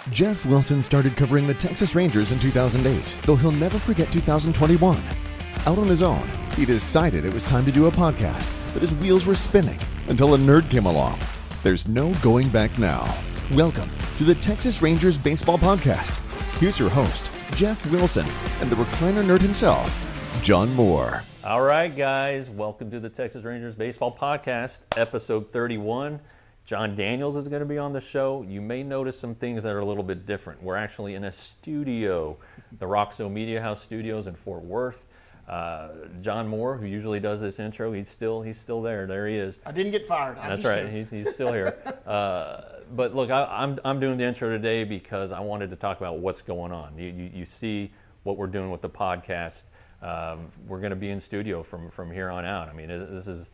Jeff Wilson started covering the Texas Rangers in 2008, though he'll never forget 2021. Out on his own, he decided it was time to do a podcast, but his wheels were spinning until a nerd came along. There's no going back now. Welcome to the Texas Rangers Baseball Podcast. Here's your host, Jeff Wilson, and the recliner nerd himself, John Moore. All right, guys, welcome to the Texas Rangers Baseball Podcast, episode 31. John Daniels is going to be on the show. You may notice some things that are a little bit different. We're actually in a studio, the Roxo Media House Studios in Fort Worth. John Moore, who usually does this intro, he's still there. There he is. I didn't get fired. That's right. He's still here. But look, I'm doing the intro today because I wanted to talk about what's going on. You see what we're doing with the podcast. We're going to be in studio from here on out. I mean, this is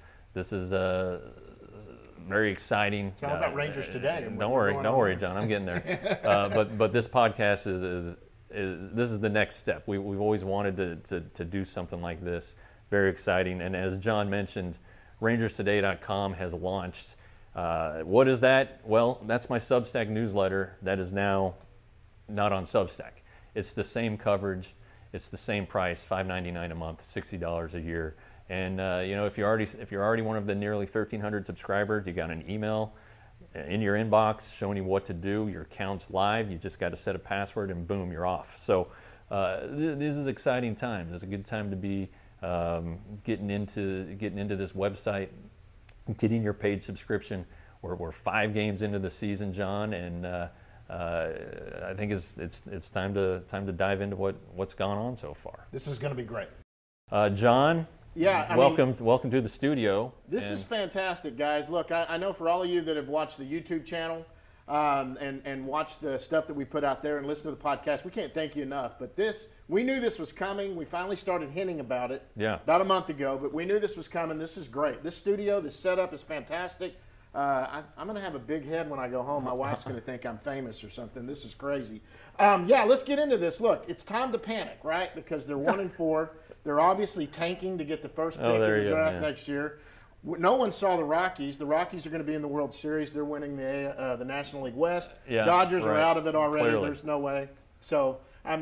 very exciting. Tell about Rangers today. Don't worry, John. I'm getting there. But this podcast is the next step. We've always wanted to do something like this. Very exciting. And as John mentioned, RangersToday.com has launched. What is that? Well, that's my Substack newsletter that is now not on Substack. It's the same coverage. It's the same price, $5.99 a month, $60 a year. And if you're already one of the nearly 1,300 subscribers, you got an email in your inbox showing you what to do. Your account's live. You just got to set a password, and boom, you're off. So this is exciting times. It's a good time to be getting into this website, getting your paid subscription. We're 5 games into the season, John, and I think it's time to dive into what's gone on so far. This is going to be great. John. Yeah, welcome to the studio. This is fantastic, guys. Look, I know for all of you that have watched the YouTube channel and watched the stuff that we put out there and listened to the podcast, we can't thank you enough. But we knew this was coming. We finally started hinting about it about a month ago, but we knew this was coming. This is great. This studio, this setup is fantastic. I'm going to have a big head when I go home. My wife's going to think I'm famous or something. This is crazy. Let's get into this. Look, it's time to panic, right? Because they're 1-4. They're obviously tanking to get the first pick in the draft next year. No one saw the Rockies. The Rockies are going to be in the World Series. They're winning the National League West. Dodgers are out of it already. Clearly. There's no way. So,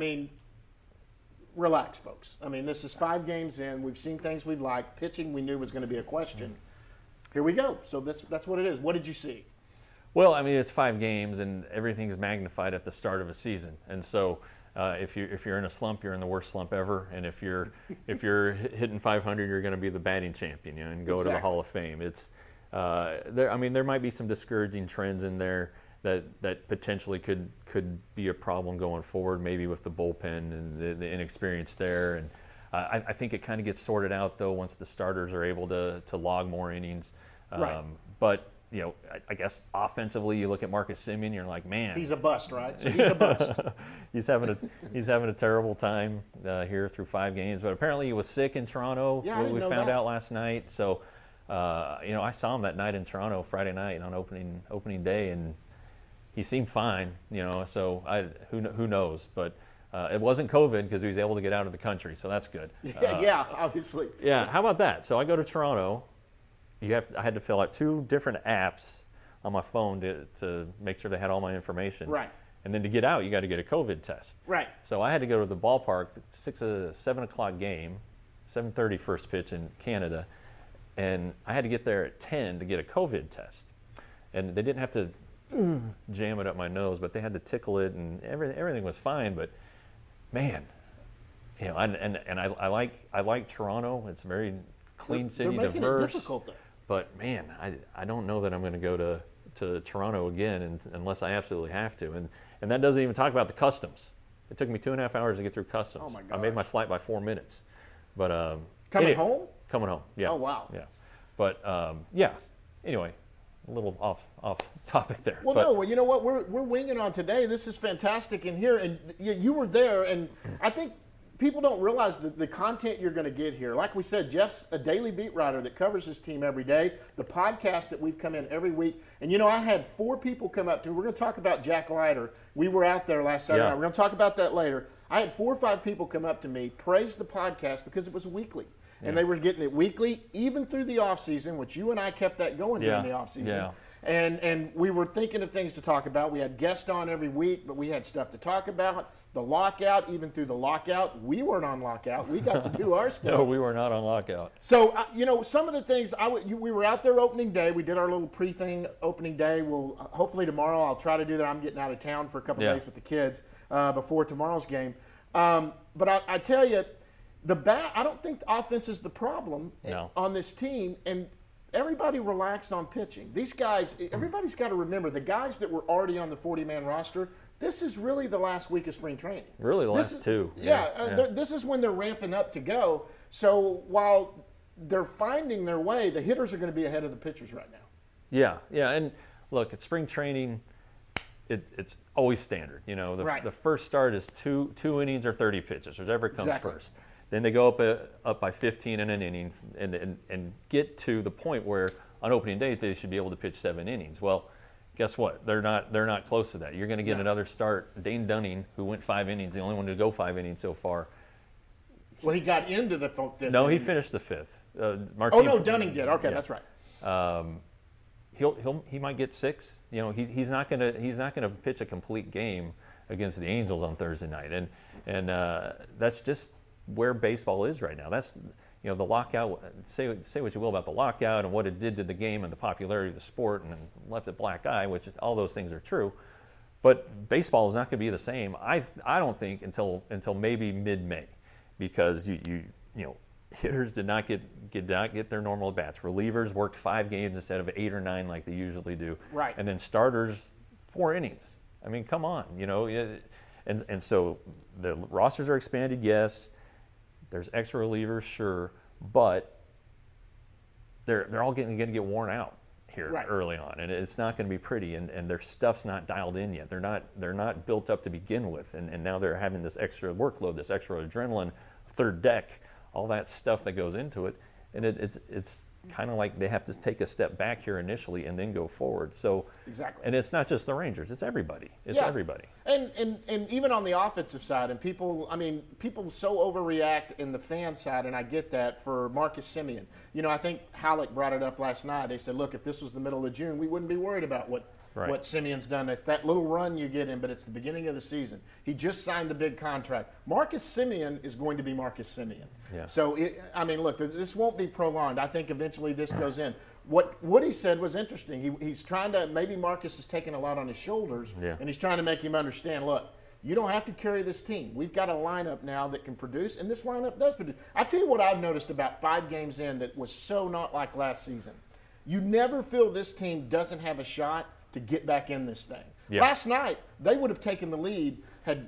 relax, folks. This is 5 games in. We've seen things we like. Pitching we knew was going to be a question. Here we go. So that's what it is. What did you see? Well, it's 5 games, and everything's magnified at the start of a season. And so if you're in a slump, you're in the worst slump ever. And if you're hitting 500, you're going to be the batting champion, and go to the Hall of Fame. It's there might be some discouraging trends in there that potentially could be a problem going forward, maybe with the bullpen and the inexperience there. And I think it kind of gets sorted out, though, once the starters are able to log more innings. Right. But, I guess offensively, you look at Marcus Semien, you're like, man. He's a bust, right? So he's a bust. he's having a terrible time here through 5 games. But apparently he was sick in Toronto. Yeah, we found out last night. So, I saw him that night in Toronto, Friday night on opening day, and he seemed fine, So who knows? But it wasn't COVID because he was able to get out of the country, so that's good. Obviously. Yeah, how about that? So I go to Toronto. I had to fill out 2 different apps on my phone to make sure they had all my information. Right. And then to get out, you got to get a COVID test. Right. So I had to go to the ballpark, 7 o'clock game, 7:30 first pitch in Canada, and I had to get there at 10 to get a COVID test. And they didn't have to jam it up my nose, but they had to tickle it, and everything was fine. But man, I like Toronto. It's a very clean city, they're making diverse. It difficult, though. But man, I don't know that I'm going to go to Toronto again, unless I absolutely have to. And that doesn't even talk about the customs. It took me 2.5 hours to get through customs. Oh my gosh. I made my flight by 4 minutes. But coming home? Coming home. Yeah. Oh wow. Yeah. But Anyway, a little off topic there. Well, you know what? We're winging on today. This is fantastic in here, and you were there, and I think people don't realize the content you're going to get here. Like we said, Jeff's a daily beat writer that covers his team every day. The podcast that we've come in every week. And, I had 4 people come up to me. We're going to talk about Jack Leiter. We were out there last Saturday night. We're going to talk about that later. I had 4 or 5 people come up to me, praise the podcast because it was weekly. And they were getting it weekly, even through the offseason, which you and I kept that going during the offseason. And we were thinking of things to talk about. We had guests on every week, but we had stuff to talk about. The lockout, even through the lockout, we weren't on lockout. We got to do our stuff. No, we were not on lockout. So, some of the things, we were out there opening day. We did our little pre-thing opening day. We'll hopefully tomorrow I'll try to do that. I'm getting out of town for a couple days with the kids before tomorrow's game. But I tell you, I don't think the offense is the problem on this team. And everybody relaxed on pitching. These guys, everybody's got to remember, the guys that were already on the 40-man roster, this is really the last week of spring training. Really, the last two. This is when they're ramping up to go. So while they're finding their way, the hitters are going to be ahead of the pitchers right now. Yeah. And look, at spring training, it's always standard. The first start is two innings or 30 pitches, whichever comes first. Then they go up by 15 in an inning and get to the point where on opening day they should be able to pitch 7 innings. Well, guess what? They're not close to that. You're going to get another start. Dane Dunning, who went 5 innings, the only one to go 5 innings so far. Well, he got into the 5th. No, he finished the 5th. Dunning did. Okay, that's right. He might get 6. He's not gonna pitch a complete game against the Angels on Thursday night, and that's just where baseball is right now. That's the lockout. Say what you will about the lockout and what it did to the game and the popularity of the sport and left a black eye, which all those things are true. But baseball is not going to be the same. I don't think until maybe mid-May, because hitters did not get their normal at bats. Relievers worked 5 games instead of 8 or 9 like they usually do. Right. And then starters 4 innings. I mean, come on, And so the rosters are expanded, yes. There's extra relievers, sure, but they're all going to get worn out here early on, and it's not going to be pretty. And their stuff's not dialed in yet. They're not built up to begin with, and now they're having this extra workload, this extra adrenaline, third deck, all that stuff that goes into it, and it's kind of like they have to take a step back here initially and then go forward. So exactly. And it's not just the Rangers; it's everybody. Everybody. And even on the offensive side, and people so overreact in the fan side, and I get that, for Marcus Semien. I think Halleck brought it up last night. They said, look, if this was the middle of June, we wouldn't be worried about what Semien's done. It's that little run you get in, but it's the beginning of the season. He just signed the big contract. Marcus Semien is going to be Marcus Semien. Yeah. So, look, this won't be prolonged. I think eventually this goes in. What Woody said was interesting. He's trying to, maybe Marcus is taking a lot on his shoulders, and he's trying to make him understand, look, you don't have to carry this team. We've got a lineup now that can produce, and this lineup does produce. I tell you what I've noticed about 5 games in that was so not like last season. You never feel this team doesn't have a shot to get back in this thing. Yeah. Last night, they would have taken the lead had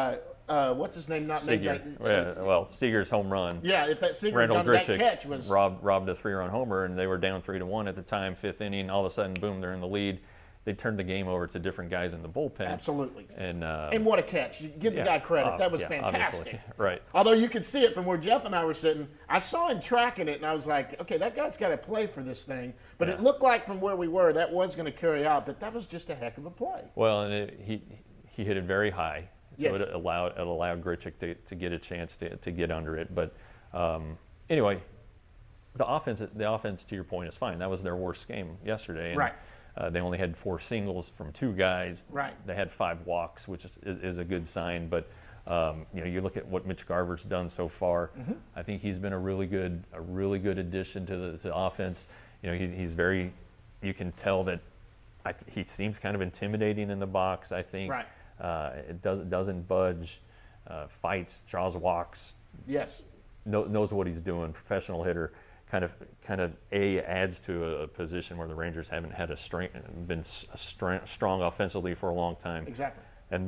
what's his name not made that. Seager's home run. Yeah, if that Seager Randall done Grichuk that catch was robbed a 3-run homer, and they were down 3-1 at the time, 5th inning. All of a sudden, boom, they're in the lead. They turned the game over to different guys in the bullpen. Absolutely. And what a catch. You give the guy credit. That was fantastic. Obviously. Right. Although you could see it from where Jeff and I were sitting. I saw him tracking it, and I was like, okay, that guy's got to play for this thing. But it looked like from where we were, that was going to carry out. But that was just a heck of a play. Well, and he hit it very high. So yes. it allowed Grichuk to get a chance to get under it. But anyway, the offense, to your point, is fine. That was their worst game yesterday. And, right. They only had 4 singles from 2 guys. Right. They had 5 walks, which is a good sign. But you look at what Mitch Garver's done so far. Mm-hmm. I think he's been a really good addition to the offense. He's very. You can tell that he seems kind of intimidating in the box. I think. Right. It doesn't budge. Fights, draws walks. Yes. Knows what he's doing. Professional hitter. Kind of adds to a position where the Rangers haven't had been strong offensively for a long time. Exactly. And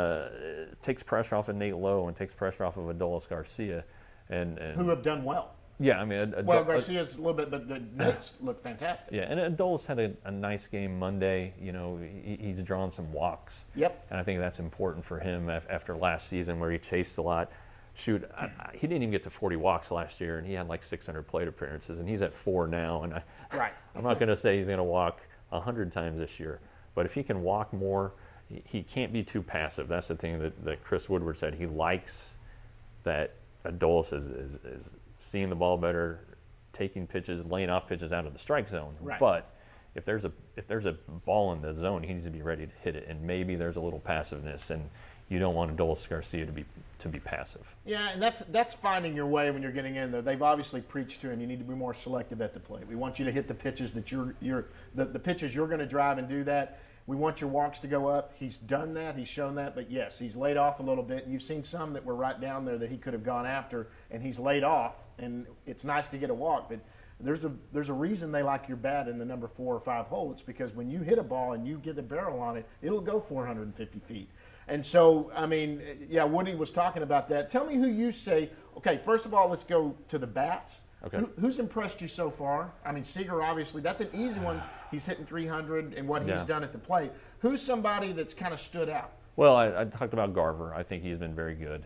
then takes pressure off of Nate Lowe and takes pressure off of Adolis Garcia, and who have done well. Yeah, I mean, Garcia's a little bit, but Nate's looked fantastic. Yeah, and Adolis had a nice game Monday. He's drawn some walks. Yep. And I think that's important for him after last season where he chased a lot. Shoot, he didn't even get to 40 walks last year, and he had like 600 plate appearances, and he's at 4 now. And I'm not going to say he's going to walk 100 times this year, but if he can walk more, he can't be too passive. That's the thing that Chris Woodward said. He likes that Adolis is seeing the ball better, taking pitches, laying off pitches out of the strike zone. Right. But if there's a ball in the zone, he needs to be ready to hit it, and maybe there's a little passiveness, and you don't want Adolis Garcia to be passive. Yeah, and that's finding your way when you're getting in there. They've obviously preached to him, you need to be more selective at the plate. We want you to hit the pitches that the pitches you're going to drive and do that. We want your walks to go up. He's done that. He's shown that. But, yes, he's laid off a little bit. You've seen some that were right down there that he could have gone after, and he's laid off. And it's nice to get a walk. But there's a reason they like your bat in the number 4 or 5 hole. It's because when you hit a ball and you get the barrel on it, it'll go 450 feet. And so, I mean, yeah, Woody was talking about that. Tell me who you say. Okay, first of all, let's go to the bats. Okay. Who's impressed you so far? I mean, Seager, obviously, that's an easy one. He's hitting 300 and what he's done at the plate. Who's somebody that's kind of stood out? Well, I talked about Garver. I think he's been very good.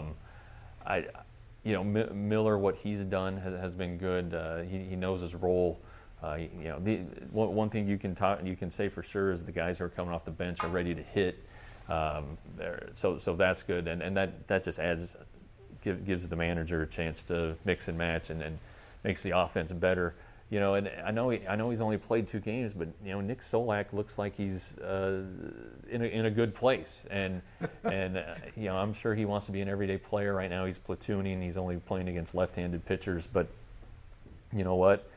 Miller, what he's done has been good. He knows his role. One thing you can say for sure is the guys who are coming off the bench are ready to hit. So that's good, and that just gives the manager a chance to mix and match and makes the offense better. And I know he's only played 2 games, but Nick Solak looks like he's in a good place, and I'm sure he wants to be an everyday player. Right now he's platooning. He's only playing against left-handed pitchers, but you know what?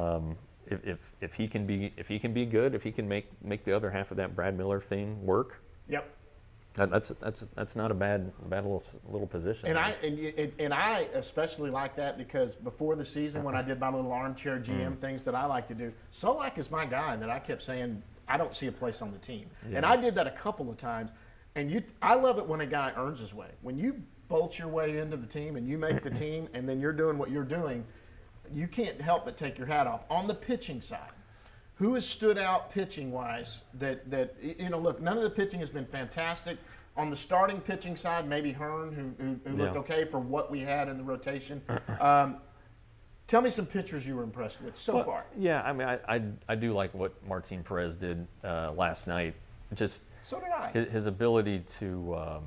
If he can be good, if he can make the other half of that Brad Miller thing work. Yep. That's not a bad little position. And I especially like that because before the season when I did my little armchair GM things that I like to do, Solak is my guy that I kept saying I don't see a place on the team. Yeah. And I did that a couple of times. And I love it when a guy earns his way. When you bolt your way into the team and you make the team and then you're doing what you're doing, you can't help but take your hat off. On the pitching side, who has stood out pitching-wise that look, none of the pitching has been fantastic. On the starting pitching side, maybe Hearn, who looked okay for what we had in the rotation. Tell me some pitchers you were impressed with so far. Yeah, I mean, I do like what Martin Perez did last night. Just so did I. His ability to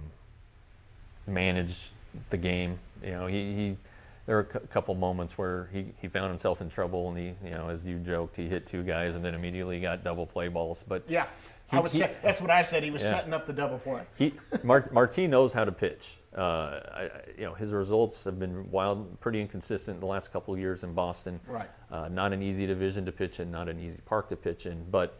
manage the game. There were a couple moments where he found himself in trouble, and he, as you joked, he hit 2 guys and then immediately got double play balls. But yeah, that's what I said. He was setting up the double play. Martin knows how to pitch. His results have been pretty inconsistent the last couple of years in Boston. Right. Not an easy division to pitch in, not an easy park to pitch in, but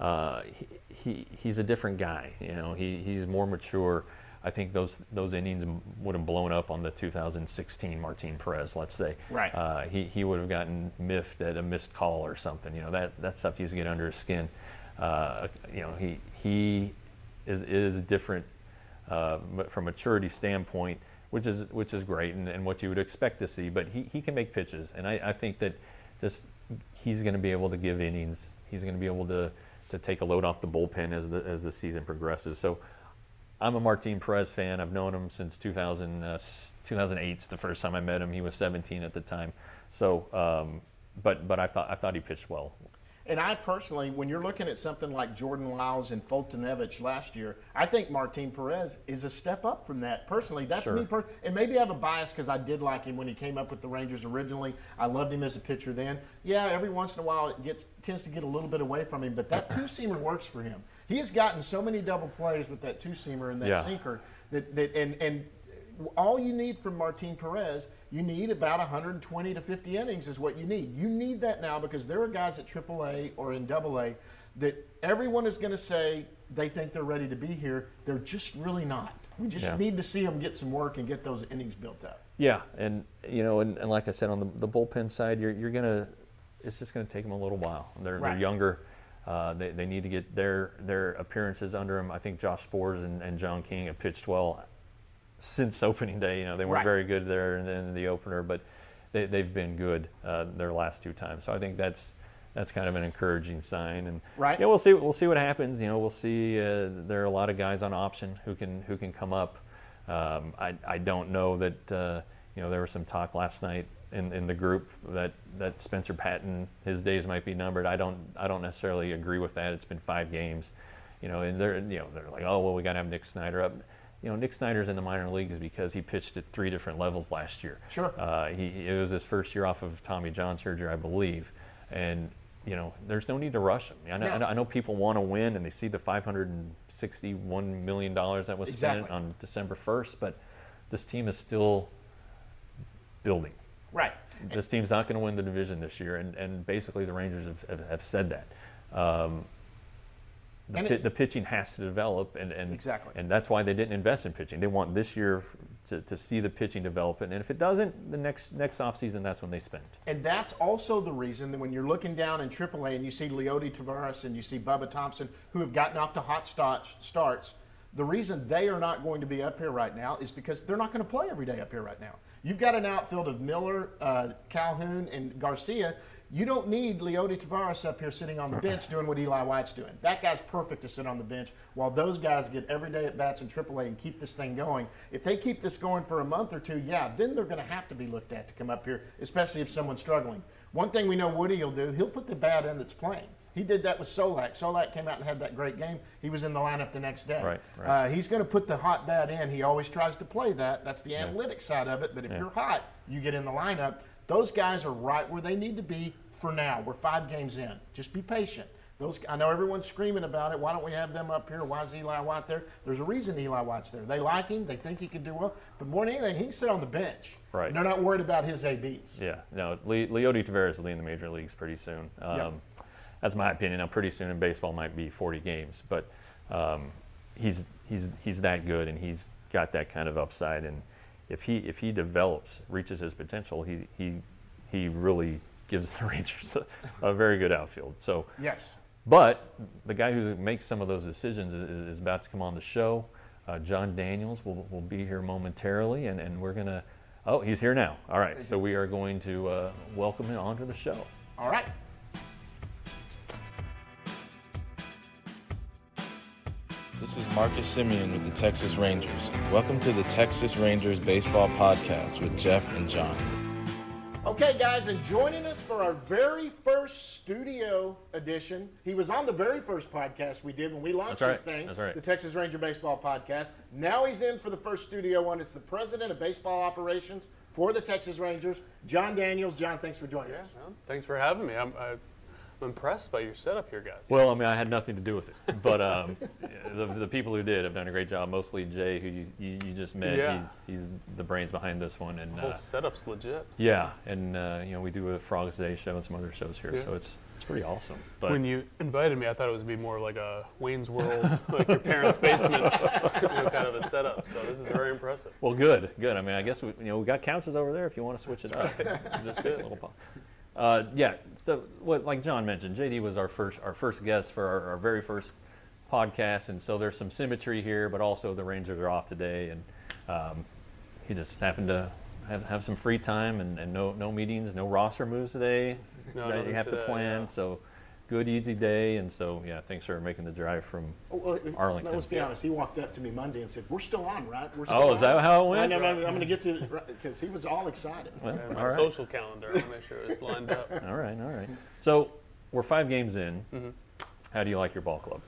he's a different guy. He's more mature. I think those innings would have blown up on the 2016 Martin Perez, let's say. Right. He would have gotten miffed at a missed call or something. That stuff used to get under his skin. He is different from a maturity standpoint, which is great and what you would expect to see. But he can make pitches, and I think that just he's going to be able to give innings. He's going to be able to take a load off the bullpen as the season progresses. So I'm a Martin Perez fan. I've known him since 2008. The first time I met him. He was 17 at the time. So, but I thought he pitched well. And I personally, when you're looking at something like Jordan Lyles and Fultonevich last year, I think Martin Perez is a step up from that. Personally, that's sure. me. And maybe I have a bias because I did like him when he came up with the Rangers originally. I loved him as a pitcher then. Yeah, every once in a while it tends to get a little bit away from him, but that two-seamer works for him. He has gotten so many double plays with that two-seamer and that sinker and all you need from Martin Perez, you need about 120 to 50 innings is what you need. You need that now because there are guys at AAA or in AA that everyone is going to say they think they're ready to be here. They're just really not. We just need to see them get some work and get those innings built up. Yeah, and and like I said, on the bullpen side, it's just gonna take them a little while. They're younger. They need to get their appearances under them. I think Josh Spores and John King have pitched well since opening day. They weren't very good there in the opener, but they've been good their last 2 times. So I think that's kind of an encouraging sign. And we'll see what happens. We'll see. There are a lot of guys on option who can come up. I don't know that there was some talk last night in the group that Spencer Patton, his days might be numbered. I don't necessarily agree with that. It's been 5 games, and they're like, oh well, we got to have Nick Snyder up. Nick Snyder's in the minor leagues because he pitched at 3 different levels last year. Sure. It was his first year off of Tommy John surgery, I believe, and there's no need to rush them. I know people want to win, and they see the $561 million that was spent on December 1st, but this team is still building. Right. This team's not going to win the division this year, and basically the Rangers have said that. The pitching has to develop, and exactly. And that's why they didn't invest in pitching. They want this year to see the pitching develop, and if it doesn't, the next offseason, that's when they spend. And that's also the reason that when you're looking down in AAA and you see Leody Taveras and you see Bubba Thompson, who have gotten off to hot starts, the reason they are not going to be up here right now is because they're not going to play every day up here right now. You've got an outfield of Miller, Calhoun, and Garcia. You don't need Leody Taveras up here sitting on the bench doing what Eli White's doing. That guy's perfect to sit on the bench while those guys get everyday at-bats in AAA and keep this thing going. If they keep this going for a month or two, then they're going to have to be looked at to come up here, especially if someone's struggling. One thing we know Woody will do, he'll put the bat in that's playing. He did that with Solak. Solak came out and had that great game. He was in the lineup the next day. Right. He's going to put the hot bat in. He always tries to play that. That's the analytics side of it. But if you're hot, you get in the lineup. Those guys are right where they need to be for now. We're 5 games in. Just be patient. I know everyone's screaming about it. Why don't we have them up here? Why is Eli White there? There's a reason Eli White's there. They like him. They think he can do well. But more than anything, he can sit on the bench. Right. They're not worried about his ABs. Yeah. No, Leody Taveras will be in the major leagues pretty soon. That's my opinion. Now, pretty soon in baseball might be 40 games, but he's that good, and he's got that kind of upside. And if he develops, reaches his potential, he really gives the Rangers a very good outfield. So yes. But the guy who makes some of those decisions is about to come on the show. Jon Daniels will be here momentarily, and we're gonna. Oh, he's here now. All right, so we are going to welcome him onto the show. All right. This is Marcus Simeon with the Texas Rangers. Welcome to the Texas Rangers Baseball Podcast with Jeff and John. Okay, guys, and joining us for our very first studio edition. He was on the very first podcast we did when we launched this thing, the Texas Ranger Baseball Podcast. Now he's in for the first studio one. It's the president of baseball operations for the Texas Rangers, Jon Daniels. John, thanks for joining us. Man, thanks for having me. I'm impressed by your setup here, guys. Well, I mean, I had nothing to do with it, but the people who did have done a great job. Mostly Jay, who you just met. Yeah. He's the brains behind this one, and the whole setup's legit. Yeah, and we do a Frogs Day show and some other shows here, so it's pretty awesome. But when you invited me, I thought it would be more like a Wayne's World, like your parents' basement, kind of a setup. So this is very impressive. Well, good. I mean, I guess we got couches over there if you want to switch it up. Just do a little pop. So like John mentioned, JD was our first guest for our very first podcast, and so there's some symmetry here, but also the Rangers are off today, and he just happened to have some free time and no meetings, no roster moves today that you have to plan. Yeah. So good, easy day, and so thanks for making the drive from Arlington. Let's be honest. He walked up to me Monday and said, "We're still on, right? We're still on." Is that how it went? I'm going to get to it because he was all excited. Well, my social calendar, I want to make sure it's lined up. All right. So we're 5 games in. Mm-hmm. How do you like your ball club?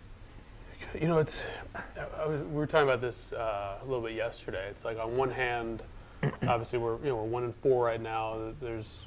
We were talking about this a little bit yesterday. It's like on one hand, obviously we're 1-4 right now. There's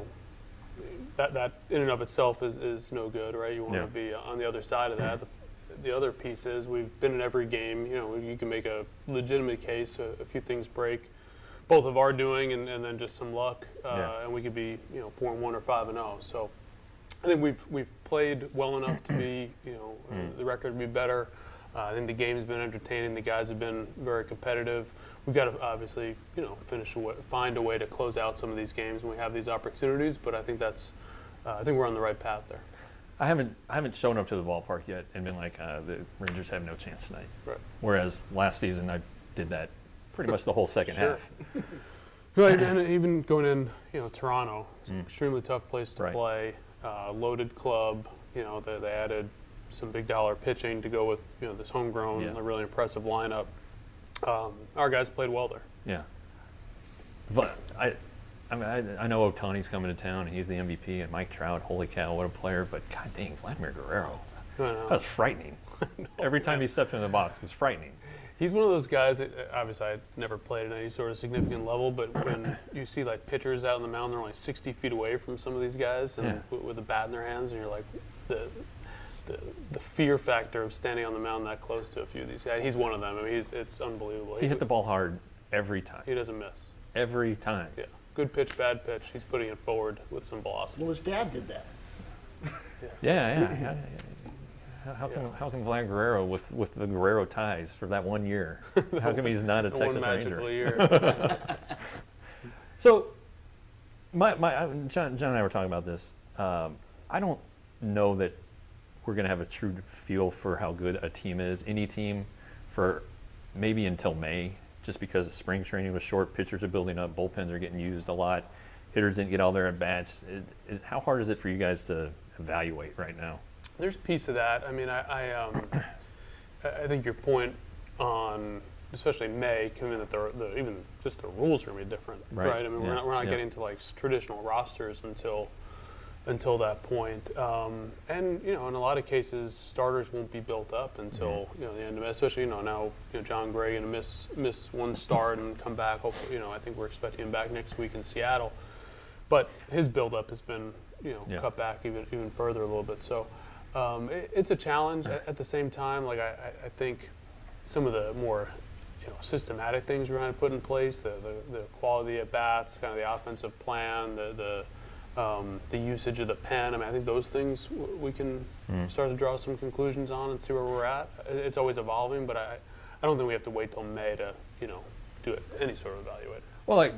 that in and of itself is no good, right? You want to be on the other side of that. The other piece is we've been in every game. You can make a legitimate case. A few things break, both of our doing and then just some luck, and we could be 4-1 or 5-0. So I think we've played well enough to be the record would be better. I think the game's been entertaining. The guys have been very competitive. We've got to obviously, find a way to close out some of these games when we have these opportunities. But I think I think we're on the right path there. I haven't shown up to the ballpark yet and been like, the Rangers have no chance tonight. Right. Whereas last season I did that pretty much the whole second half. Right, and even going in, Toronto, extremely tough place to play. Loaded club. They added some big dollar pitching to go with this homegrown, a really impressive lineup. Our guys played well there. Yeah, but I know Ohtani's coming to town and he's the MVP, and Mike Trout, holy cow, what a player! But god dang, Vladimir Guerrero, that was frightening. Every time he stepped in the box, it was frightening. He's one of those guys that obviously I never played at any sort of significant level, but when you see like pitchers out on the mound, they're only 60 feet away from some of these guys, and with a bat in their hands, and you're like, the fear factor of standing on the mound that close to a few of these guys. He's one of them. I mean, it's unbelievable. He hit the ball hard every time. He doesn't miss. Every time. Yeah. Good pitch, bad pitch. He's putting it forward with some velocity. Well, his dad did that. Yeah. How come Vlad Guerrero with the Guerrero ties for that 1 year? How come he's not a Texas one Ranger? magical year. So, John and I were talking about this. I don't know that we're going to have a true feel for how good a team is, any team, for maybe until May, just because spring training was short, pitchers are building up, bullpens are getting used a lot, hitters didn't get all their at-bats. How hard is it for you guys to evaluate right now? There's a piece of that. I mean, I think your point on, especially May, given that even just the rules are going to be different, right? I mean, we're not getting to like traditional rosters until that point. And in a lot of cases, starters won't be built up until the end of it. Especially now John Gray going to miss one start and come back. Hopefully, I think we're expecting him back next week in Seattle. But his build-up has been cut back even further a little bit. So it's a challenge. At the same time, like I think some of the more systematic things we're trying to put in place, the quality at bats, kind of the offensive plan, the usage of the pen. I mean, I think those things we can start to draw some conclusions on and see where we're at. It's always evolving, but I don't think we have to wait till May to do any sort of evaluate. Well,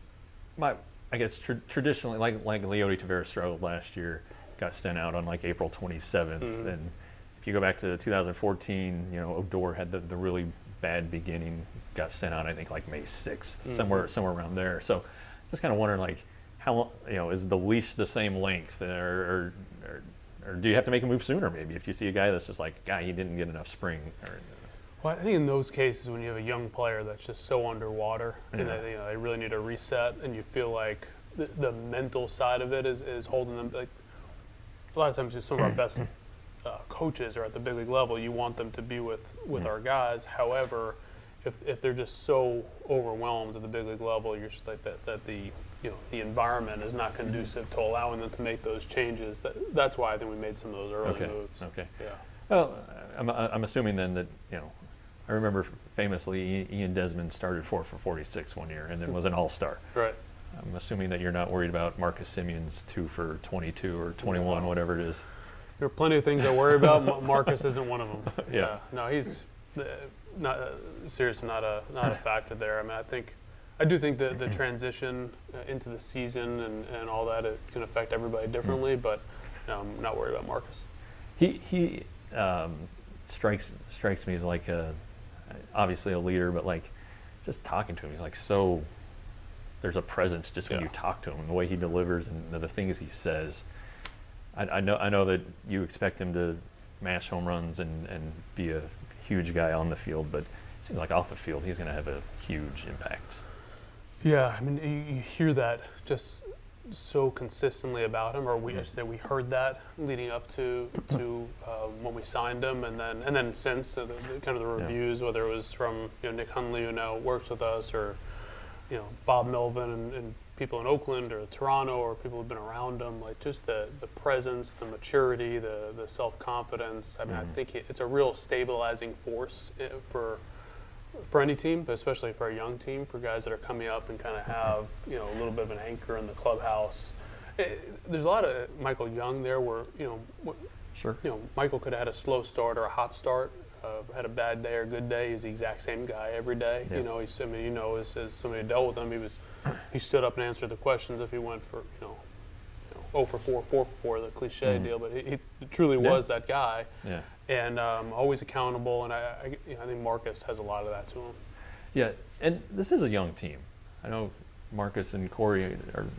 I guess traditionally, like Leody Taveras struggled last year, got sent out on like April 27th, and if you go back to 2014, Odor had the really bad beginning, got sent out I think like May 6th, somewhere around there. So just kind of wondering like how is the leash the same length, or do you have to make a move sooner maybe if you see a guy that's just like, he didn't get enough spring? Well, I think in those cases when you have a young player that's just so underwater and they really need a reset, and you feel like the mental side of it is holding them. Like a lot of times, some of our best coaches are at the big league level. You want them to be with our guys. However, if they're just so overwhelmed at the big league level, you're just like that the environment is not conducive to allowing them to make those changes. That's why I think we made some of those early moves. Okay. Yeah. Well, I'm assuming then that I remember famously Ian Desmond started 4 for 46 1 year and then was an all-star. Right. I'm assuming that you're not worried about Marcus Simeon's 2 for 22 or 21, whatever it is. There are plenty of things I worry about. Marcus isn't one of them. Yeah. No, he's not seriously not a factor there. I mean, I do think that the transition into the season and all that, it can affect everybody differently, but I'm not worried about Marcus. He strikes me as like obviously a leader, but like just talking to him, he's like there's a presence just when you talk to him, and the way he delivers and the things he says. I know that you expect him to mash home runs and be a huge guy on the field, but it seems like off the field he's going to have a huge impact. Yeah, I mean, you hear that just so consistently about him, or we heard that leading up to when we signed him, and then since the kind of the reviews, whether it was from Nick Hundley, who now works with us, or Bob Melvin and people in Oakland or Toronto, or people who've been around him, like just the presence, the maturity, the self-confidence. I mean, I think it's a real stabilizing force for any team, but especially for a young team, for guys that are coming up and kind of have a little bit of an anchor in the clubhouse. There's a lot of Michael Young there where Michael could have had a slow start or a hot start, had a bad day or a good day. He's the exact same guy every day. Yeah. As somebody who dealt with him, he stood up and answered the questions if he went for 0 for 4, 4 for 4, the cliche deal, but he truly was that guy. Yeah. And always accountable, and I think Marcus has a lot of that to him. Yeah, and this is a young team. I know Marcus and Corey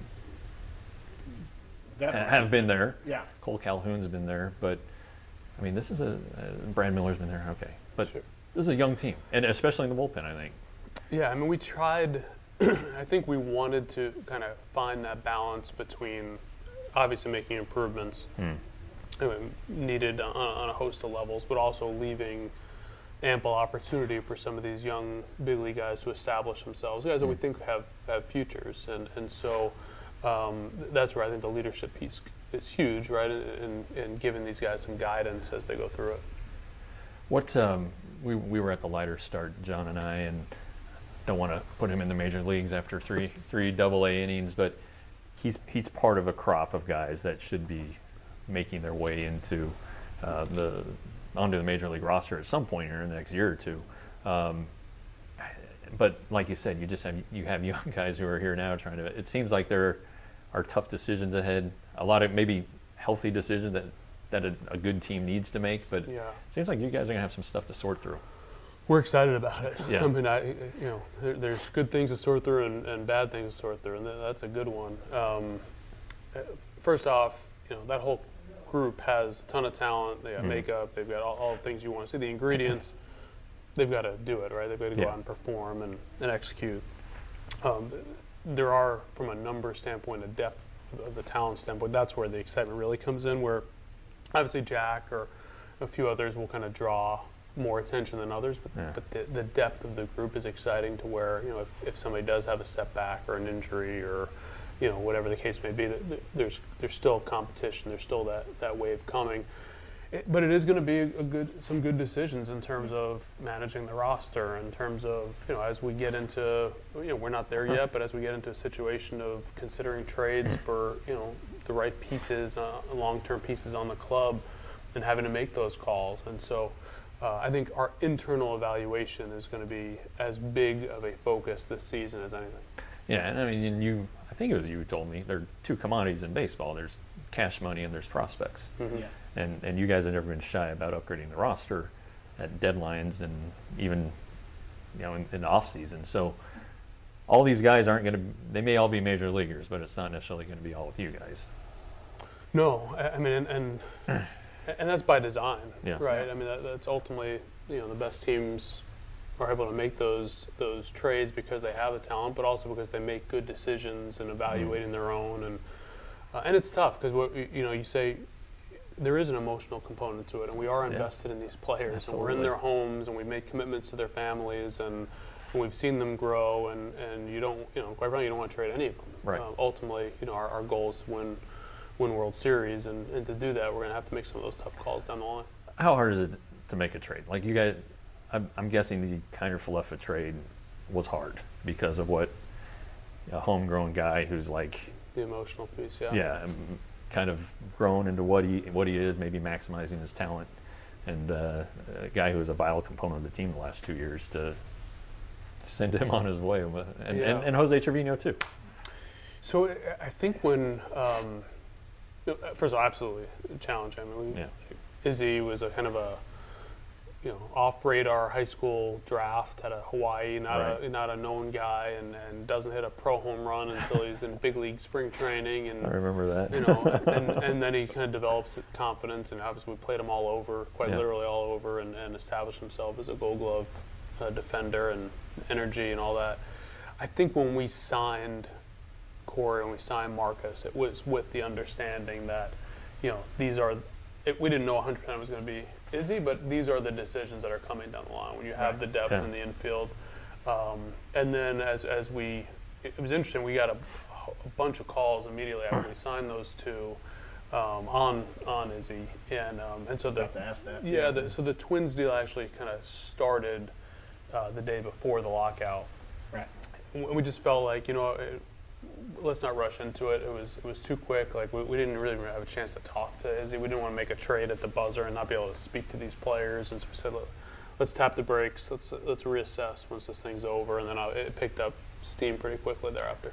have been there. Yeah. Cole Calhoun's been there, but I mean, this is Brad Miller's been there. Okay, but this is a young team, and especially in the bullpen, I think. Yeah, I mean, we tried. I think we wanted to kind of find that balance between obviously making improvements needed on a host of levels, but also leaving ample opportunity for some of these young big league guys to establish themselves, guys that we think have futures, and so that's where I think the leadership piece is huge, right? In giving these guys some guidance as they go through it. What we were at the lighter start, John and I, and don't want to put him in the major leagues after three Double-A innings, but he's part of a crop of guys that should be making their way into onto the major league roster at some point in the next year or two. But like you said, you have young guys who are here now trying to. It seems like there are tough decisions ahead. A lot of maybe healthy decisions that a good team needs to make, but it seems like you guys are gonna have some stuff to sort through. We're excited about it. Yeah. I mean, there's good things to sort through and bad things to sort through, and that's a good one. First off, that whole group has a ton of talent. They got makeup. They've got all the things you want to see. The ingredients, they've got to do it, right? They've got to go out and perform and execute. There are, from a number standpoint, a depth of the talent standpoint, that's where the excitement really comes in, where obviously Jack or a few others will kind of draw more attention than others, but the depth of the group is exciting to where, if somebody does have a setback or an injury or, whatever the case may be, there's still competition, there's still that wave coming. But it is going to be some good decisions in terms of managing the roster, in terms of, as we get into, we're not there yet, but as we get into a situation of considering trades for, the right pieces, long-term pieces on the club, and having to make those calls. And so I think our internal evaluation is going to be as big of a focus this season as anything. Yeah, and I mean, I think it was you who told me there are two commodities in baseball. There's cash money and there's prospects. Mm-hmm. Yeah. And you guys have never been shy about upgrading the roster at deadlines and even, in the off season. So all these guys aren't going to. They may all be major leaguers, but it's not necessarily going to be all with you guys. No, I mean, and that's by design, right? Yeah. I mean, that's ultimately, the best teams are able to make those trades because they have the talent, but also because they make good decisions and evaluating their own, and it's tough because you say there is an emotional component to it, and we are invested in these players. Absolutely. And we're in their homes, and we make commitments to their families, and we've seen them grow, and you don't, quite frankly, you don't want to trade any of them. Right. Ultimately, our goal is to win World Series, and to do that, we're going to have to make some of those tough calls down the line. How hard is it to make a trade? Like you guys, I'm guessing the Kiner-Falefa trade was hard because of what a homegrown guy who's like the emotional piece, kind of grown into what he is, maybe maximizing his talent, and a guy who was a vital component of the team the last 2 years to send him on his way, and Jose Trevino too. So I think when first of all, absolutely challenging. I mean, Izzy was a kind of a off-radar high school draft out of Hawaii, not a known guy, and doesn't hit a pro home run until he's in big league spring training. And I remember that. and then he kind of develops confidence, and obviously we played him all over, quite literally all over, and established himself as a Gold Glove defender and energy and all that. I think when we signed Corey and we signed Marcus, it was with the understanding that these are. We didn't know 100% it was going to be Izzy, but these are the decisions that are coming down the line when you have the depth in the infield. And then it was interesting, we got a bunch of calls immediately after we signed those two on Izzy. And so about to ask that. So the Twins deal actually kind of started the day before the lockout. Right. We just felt like, let's not rush into it. It was too quick. Like we didn't really have a chance to talk to Izzy. We didn't want to make a trade at the buzzer and not be able to speak to these players. And so we said, let's tap the brakes. Let's reassess once this thing's over. And then it picked up steam pretty quickly thereafter.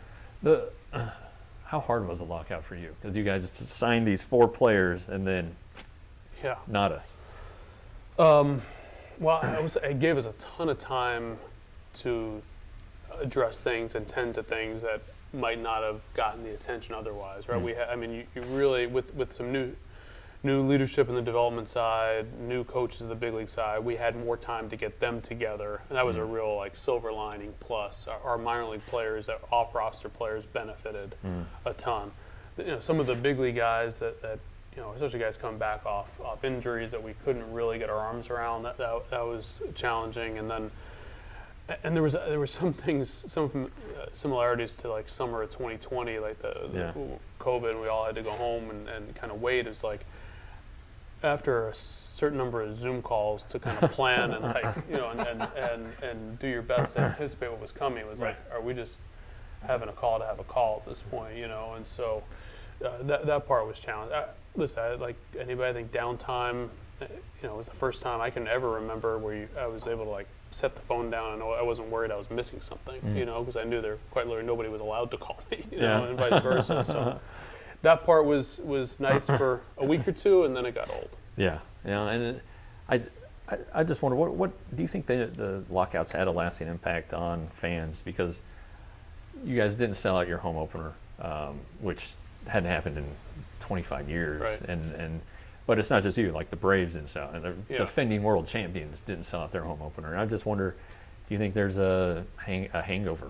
How hard was the lockout for you? Because you guys signed these 4 players and then nada. Well, it gave us a ton of time to address things and tend to things that might not have gotten the attention otherwise, right? You really, with some new leadership in the development side, new coaches of the big league side, we had more time to get them together, and that was a real silver lining. Plus, our minor league players, off roster players, benefited a ton. Some of the big league guys that especially guys coming back off injuries that we couldn't really get our arms around. That was challenging. And then, and there was some things, some similarities to like summer of 2020, like the COVID. We all had to go home and kind of wait. It's like after a certain number of Zoom calls to kind of plan and like and do your best to anticipate what was coming. It was like, are we just having a call to have a call at this point? And so that part was challenging. Listen, like anybody, I think downtime, was the first time I can ever remember where I was able to like set the phone down and I wasn't worried I was missing something, because I knew there quite literally nobody was allowed to call me, and vice versa. So that part was nice for a week or two, and then it got old. Yeah, and I just wonder, what do you think the lockouts had a lasting impact on fans? Because you guys didn't sell out your home opener, which hadn't happened in 25 years, right. But it's not just you. Like the Braves didn't sell, and the defending world champions didn't sell out their home opener. And I just wonder, do you think there's a hangover?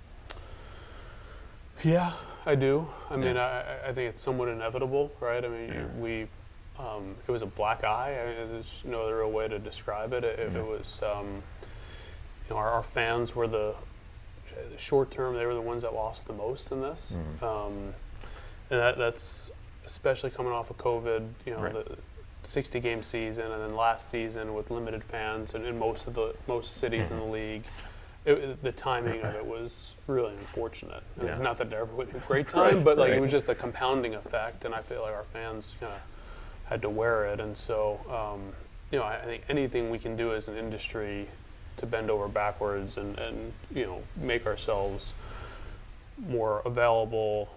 Yeah, I do. I mean, I think it's somewhat inevitable, right? I mean, it was a black eye. I mean, there's no other real way to describe it. It was, our fans were the short term. They were the ones that lost the most in this, and that's especially coming off of COVID. The 60-game season, and then last season with limited fans, and in most cities in the league. The timing of it was really unfortunate. I mean, not that it ever would be a great time, but like it was just a compounding effect, and I feel like our fans kind of had to wear it. And so, I think anything we can do as an industry to bend over backwards and make ourselves more available,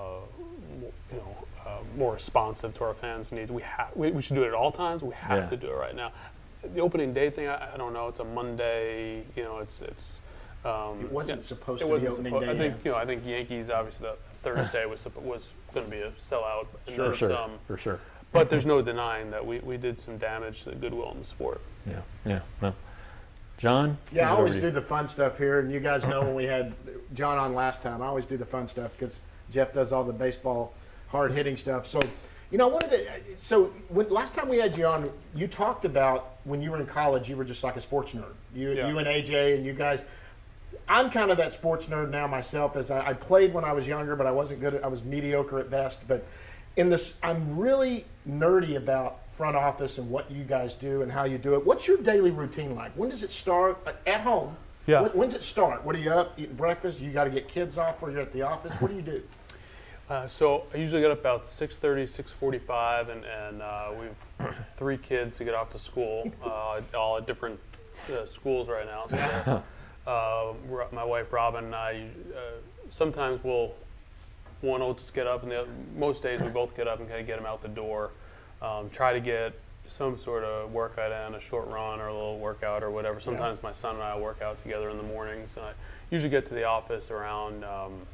more responsive to our fans' needs. We should do it at all times. We have to do it right now. The opening day thing, I don't know. It's a Monday. It's. It wasn't supposed to be opening day. I think Yankees obviously the Thursday was going to be a sellout. For sure. But there's no denying that we did some damage to the goodwill in the sport. Yeah. Well, John? Yeah, I always do the fun stuff here, and you guys know when we had John on last time, I always do the fun stuff because Jeff does all the baseball hard-hitting stuff. So, I wanted to. Last time we had you on, you talked about when you were in college, you were just like a sports nerd. You and AJ and you guys. I'm kind of that sports nerd now myself. As I played when I was younger, but I wasn't good. I was mediocre at best. But I'm really nerdy about front office and what you guys do and how you do it. What's your daily routine like? When does it start at home? Yeah. When's it start? What are you up eating breakfast? You got to get kids off, or you're at the office. What do you do? So I usually get up about 6:30, 6:45, and we've 3 kids to get off to school, all at different schools right now. So my wife Robin and I sometimes one will just get up, and most days we both get up and kind of get them out the door. Try to get some sort of workout in, a short run or a little workout or whatever. Sometimes my son and I will work out together in the mornings. And I usually get to the office around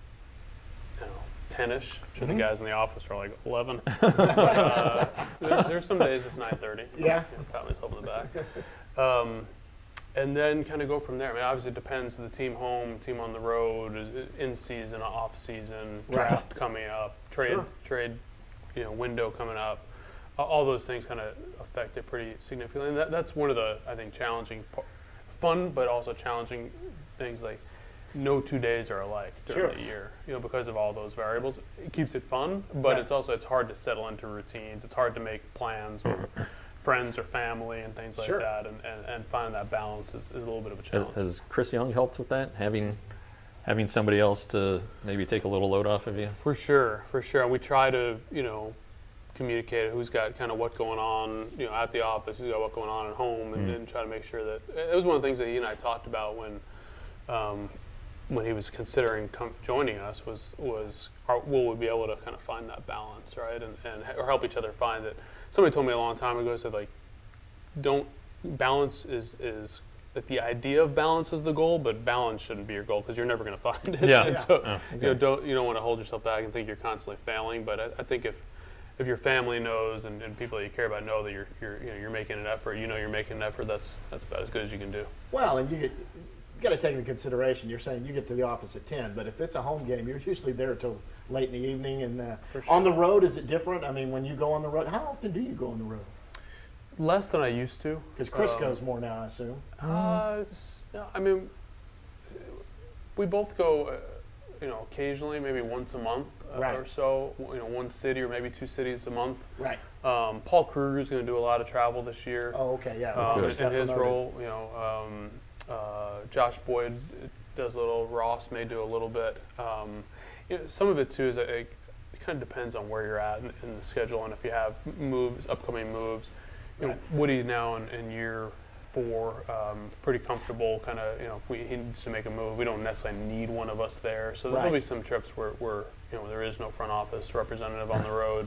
10-ish. I'm sure the guys in the office are like 11. There's some days it's 9:30. Yeah. Pat myself in the back. And then kind of go from there. I mean, obviously it depends. The team home, team on the road, in season, off season, draft coming up, trade window coming up. All those things kind of affect it pretty significantly. And that's one of the, I think, challenging, fun but also challenging things. Like no 2 days are alike during the year, because of all those variables. It keeps it fun, but it's hard to settle into routines. It's hard to make plans with friends or family and things like that, and finding that balance is a little bit of a challenge. Has Chris Young helped with that? Having somebody else to maybe take a little load off of you? For sure. We try to, communicate who's got kind of what going on, at the office, who's got what going on at home, and try to make sure that it was one of the things that he and I talked about when he was considering joining us was will we be able to kind of find that balance, right, and or help each other find it. Somebody told me a long time ago, said like, balance is that the idea of balance is the goal, but balance shouldn't be your goal because you're never going to find it. Yeah. And so you don't want to hold yourself back and think you're constantly failing. But I think if your family knows and people that you care about know that you're making an effort, you're making an effort, that's about as good as you can do. Well, and you got to take into consideration. You're saying you get to the office at 10, but if it's a home game, you're usually there till late in the evening. And Sure. on the road, is it different? I mean, when you go on the road, how often do you go on the road? Less than I used to. Because Chris goes more now, I assume. I mean, we both go, occasionally, maybe once a month Right. or so. One city or maybe two cities a month. Right. Paul Kruger's going to do a lot of travel this year. Oh, okay, yeah. In his role, Josh Boyd does a little. Ross may do a little bit. Some of it too is it kind of depends on where you're at in the schedule, and if you have upcoming moves. Right. Woody now in year 4, pretty comfortable. Kind of, if he needs to make a move, we don't necessarily need one of us there. So there'll be some trips where there is no front office representative on the road.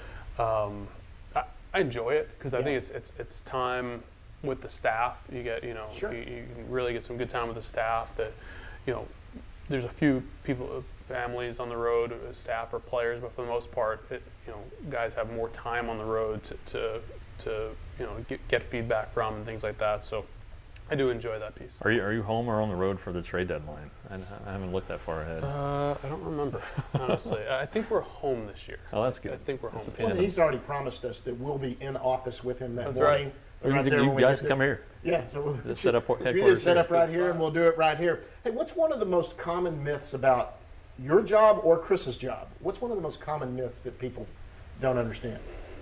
I enjoy it because I think it's time with the staff. You get you can really get some good time with the staff. That there's a few people, families on the road, staff or players, but for the most part, guys have more time on the road to get feedback from and things like that. So I do enjoy that piece. Are you home or on the road for the trade deadline? I haven't looked that far ahead. I don't remember, honestly. I think we're home this year. Oh, that's good. I think we're home. Well, he's already promised us that we'll be in office with him that That's morning. right. Right there You when we guys get can there. come here. Yeah, so we'll Just set up we headquarters just set here. up right here, and we'll do it right here. Hey, what's one of the most common myths about your job or Chris's job? What's one of the most common myths that people don't understand?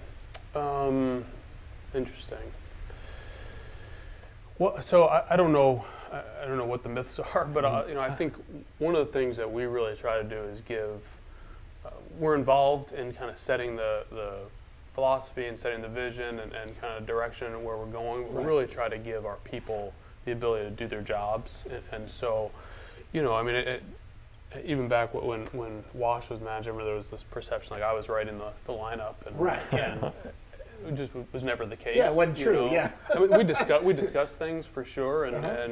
Interesting. Well, so I don't know. I don't know what the myths are, but I think one of the things that we really try to do is give. We're involved in kind of setting the philosophy and setting the vision and kind of direction and where we're going. We really try to give our people the ability to do their jobs, and so, even back when Wash was manager, there was this perception like I was writing the lineup, and it just was never the case. Yeah, it wasn't true. Yeah, I mean, we discuss things for sure,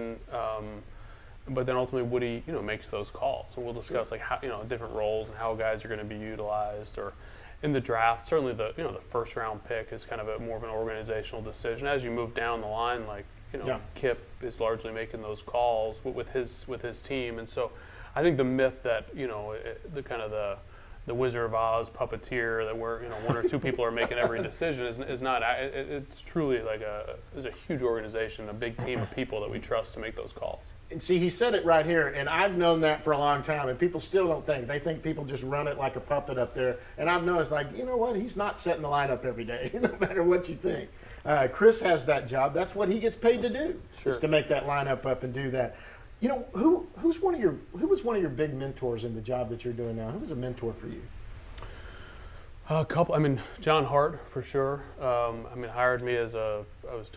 but then ultimately Woody makes those calls, and we'll discuss like how different roles and how guys are going to be utilized, or in the draft. Certainly the first round pick is kind of more of an organizational decision. As you move down the line, like Kip is largely making those calls with his team, and so I think the myth that the kind of the Wizard of Oz puppeteer that where one or two people are making every decision is not. It's truly like there's a huge organization, a big team of people that we trust to make those calls. and see, he said it right here, and I've known that for a long time, and people still don't think. They think people just run it like a puppet up there, and I've noticed, like, you know what, he's not setting the lineup every day, no matter what you think. Chris has that job. That's what he gets paid to do, is to make that lineup up and do that. You know, who was one of your big mentors in the job that you're doing now? Who was a mentor for you? A couple. I mean, John Hart for sure. Hired me as I was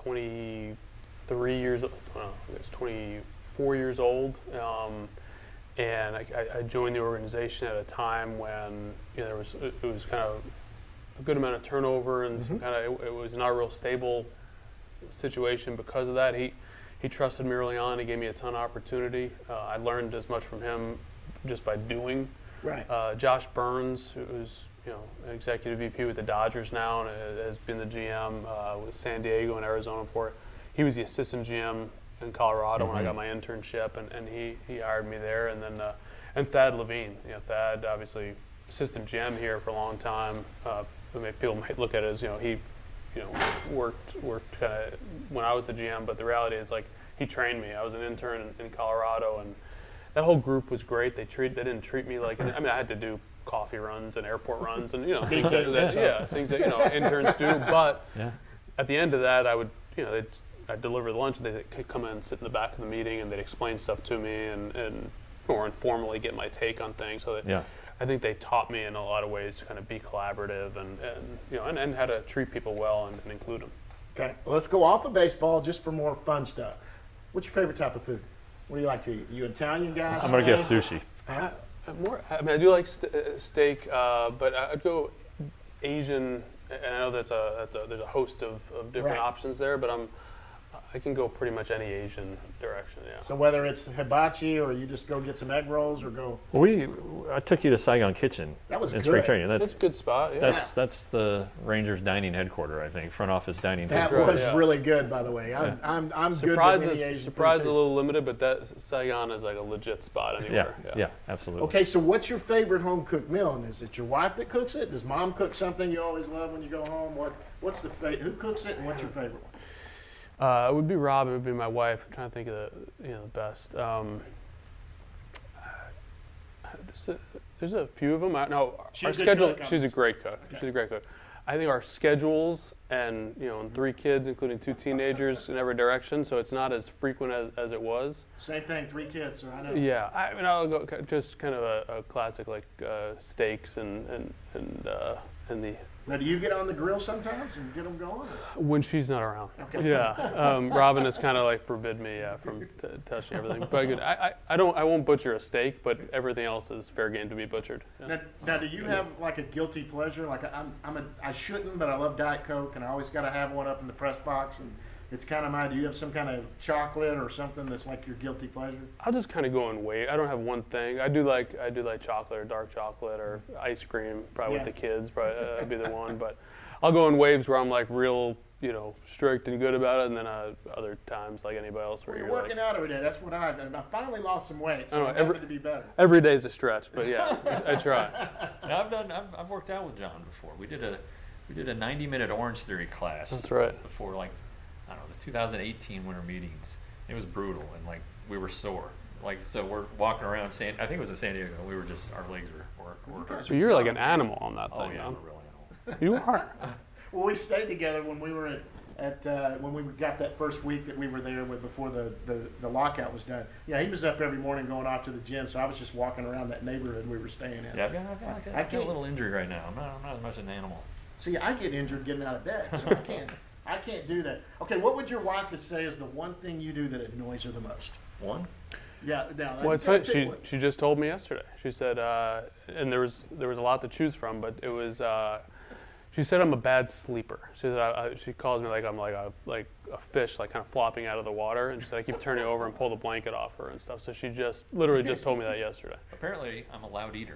23 years. I was 24 years old, and I joined the organization at a time when it was kind of a good amount of turnover and some kind of it was not a real stable situation because of that. He trusted me early on. He gave me a ton of opportunity. I learned as much from him just by doing. Right. Josh Burns, who's an executive VP with the Dodgers now and has been the GM with San Diego and Arizona for it. He was the assistant GM in Colorado when I got my internship, and he hired me there. And then and Thad Levine. Thad obviously assistant GM here for a long time. People might look at it as he worked kind of when I was the GM, but the reality is like he trained me. I was an intern in Colorado, and that whole group was great. They didn't treat me like I had to do coffee runs and airport runs and things that interns do. But at the end of that, I would I'd deliver the lunch. And they'd come in and sit in the back of the meeting, and they'd explain stuff to me and more informally get my take on things. So that I think they taught me in a lot of ways to kind of be collaborative and how to treat people well and include them. Okay, well, let's go off of baseball just for more fun stuff. What's your favorite type of food? What do you like to eat? You Italian guy? I'm gonna guess sushi. I do like steak, but I'd go Asian. And I know there's a host of different options there, but I can go pretty much any Asian direction. Yeah. So whether it's hibachi or you just go get some egg rolls or go. I took you to Saigon Kitchen. That was in good. spring training. That's a good spot. Yeah. That's the Rangers dining headquarter, I think, front office dining. That headquarter. was really good, by the way. I'm good with any Asian Surprise food, is a too. little limited, but that Saigon is like a legit spot anywhere. Yeah, absolutely. Okay, so what's your favorite home cooked meal? And is it your wife that cooks it? Does mom cook something you always love when you go home? What's the who cooks it, and what's your favorite one? It would be Rob. It would be my wife. I'm trying to think of the best. There's a few of them. She's our a good schedule. cook, She's a great cook. Okay. She's a great cook. I think our schedules and and 3 kids, including 2 teenagers in every direction, so it's not as frequent as it was. Same thing, 3 kids, so I know. Yeah, I'll go just kind of a classic like steaks and the. Now, do you get on the grill sometimes and get them going? When she's not around. Okay. Yeah. Robin has kind of like forbid me from touching everything. But good. I won't butcher a steak, but everything else is fair game to be butchered. Yeah. Now, do you have like a guilty pleasure? Like I shouldn't, but I love Diet Coke, and I always got to have one up in the press box, and it's kind of do you have some kind of chocolate or something that's like your guilty pleasure? I'll just kind of go and wait. I don't have one thing. I do like chocolate or dark chocolate or ice cream. Probably with the kids, probably would be the one. But I'll go in waves where I'm like real, strict and good about it, and then other times like anybody else where You're you're working out every day. That's what I finally lost some weight, so I'm every- happy to be better. Every day's a stretch, but yeah, I try. Now, I've worked out with John before. We did a 90-minute Orange Theory class. That's right. Before the 2018 winter meetings. It was brutal, and we were sore. So we're walking around I think it was in San Diego. We were just, our legs were hurt. So you're like an animal on that thing, Oh yeah, man. I'm a real animal. You are. Well, we stayed together when we were when we got that first week that we were there before the lockout was done. Yeah, he was up every morning going off to the gym, so I was just walking around that neighborhood we were staying in. Yeah, I've got a little injury right now. I'm not as much an animal. See, I get injured getting out of bed, so I can't do that. Okay, what would your wife say is the one thing you do that annoys her the most? One? Yeah, now. Well, it's funny. She just told me yesterday. She said, and there was a lot to choose from, but it was. She said I'm a bad sleeper. She said she calls me like I'm like a fish, like kind of flopping out of the water, and she said I keep turning over and pull the blanket off her and stuff. So she literally just told me that yesterday. Apparently, I'm a loud eater.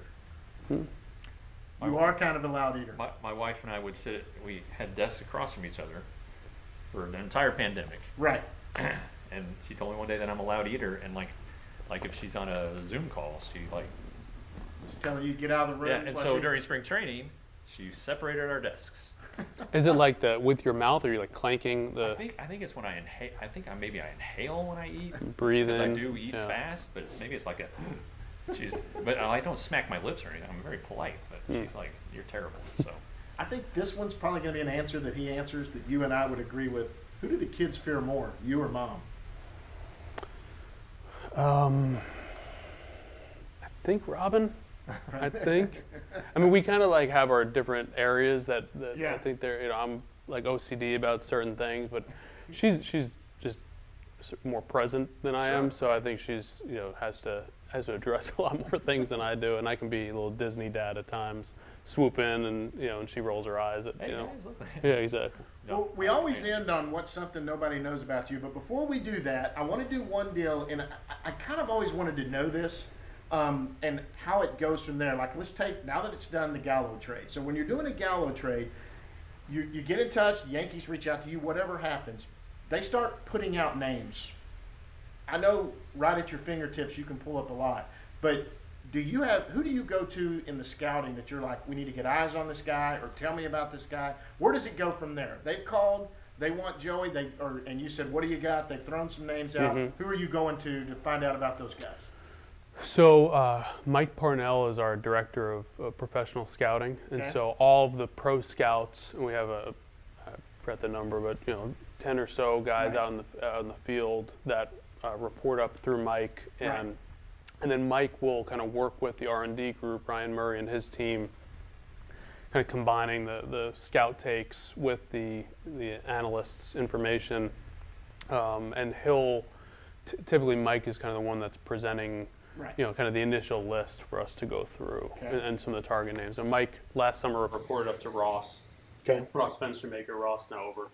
You are kind of a loud eater. My wife and I would we had desks across from each other for the entire pandemic. Right. And she told me one day that I'm a loud eater, and like if she's on a Zoom call, she's telling you to get out of the room. yeah. And so during spring training, she separated our desks. Is it like with your mouth, or are you like clanking the? I think it's when I inhale. I think maybe I inhale when I eat. Breathe in. Because I do eat fast, but maybe it's like a. But I don't smack my lips or anything. I'm very polite, but she's like, "You're terrible." So. I think this one's probably going to be an answer that he answers that you and I would agree with. Who do the kids fear more, you or mom? I think Robin. I think. I mean, we kind of have our different areas that I think they're. I'm like OCD about certain things, but she's just more present than I am. So I think she's has to address a lot more things than I do, and I can be a little Disney dad at times. Swoop in and she rolls her eyes at Guys, Yeah, exactly. Well, we always end on what's something nobody knows about you, but before we do that, I want to do one deal, and I kind of always wanted to know this, and how it goes from there. Like, let's take, now that it's done, the Gallo trade. So when you're doing a Gallo trade, you get in touch, the Yankees reach out to you, whatever happens, they start putting out names. I know right at your fingertips you can pull up a lot, but who do you go to in the scouting that you're like, we need to get eyes on this guy, or tell me about this guy? Where does it go from there? They've called, they want Joey, and you said, what do you got? They've thrown some names out. Mm-hmm. Who are you going to find out about those guys? So Mike Parnell is our director of professional scouting, and so all of the pro scouts, and we have I forgot the number, but 10 or so guys out in the field that report up through Mike, and then Mike will kind of work with the R&D group, Ryan Murray and his team, kind of combining the scout takes with the analysts' information, and he'll typically Mike is kind of the one that's presenting. Right. Kind of the initial list for us to go through, Okay. and some of the target names. And Mike last summer reported up to Ross. Okay. Ross Fenstermaker. Ross now over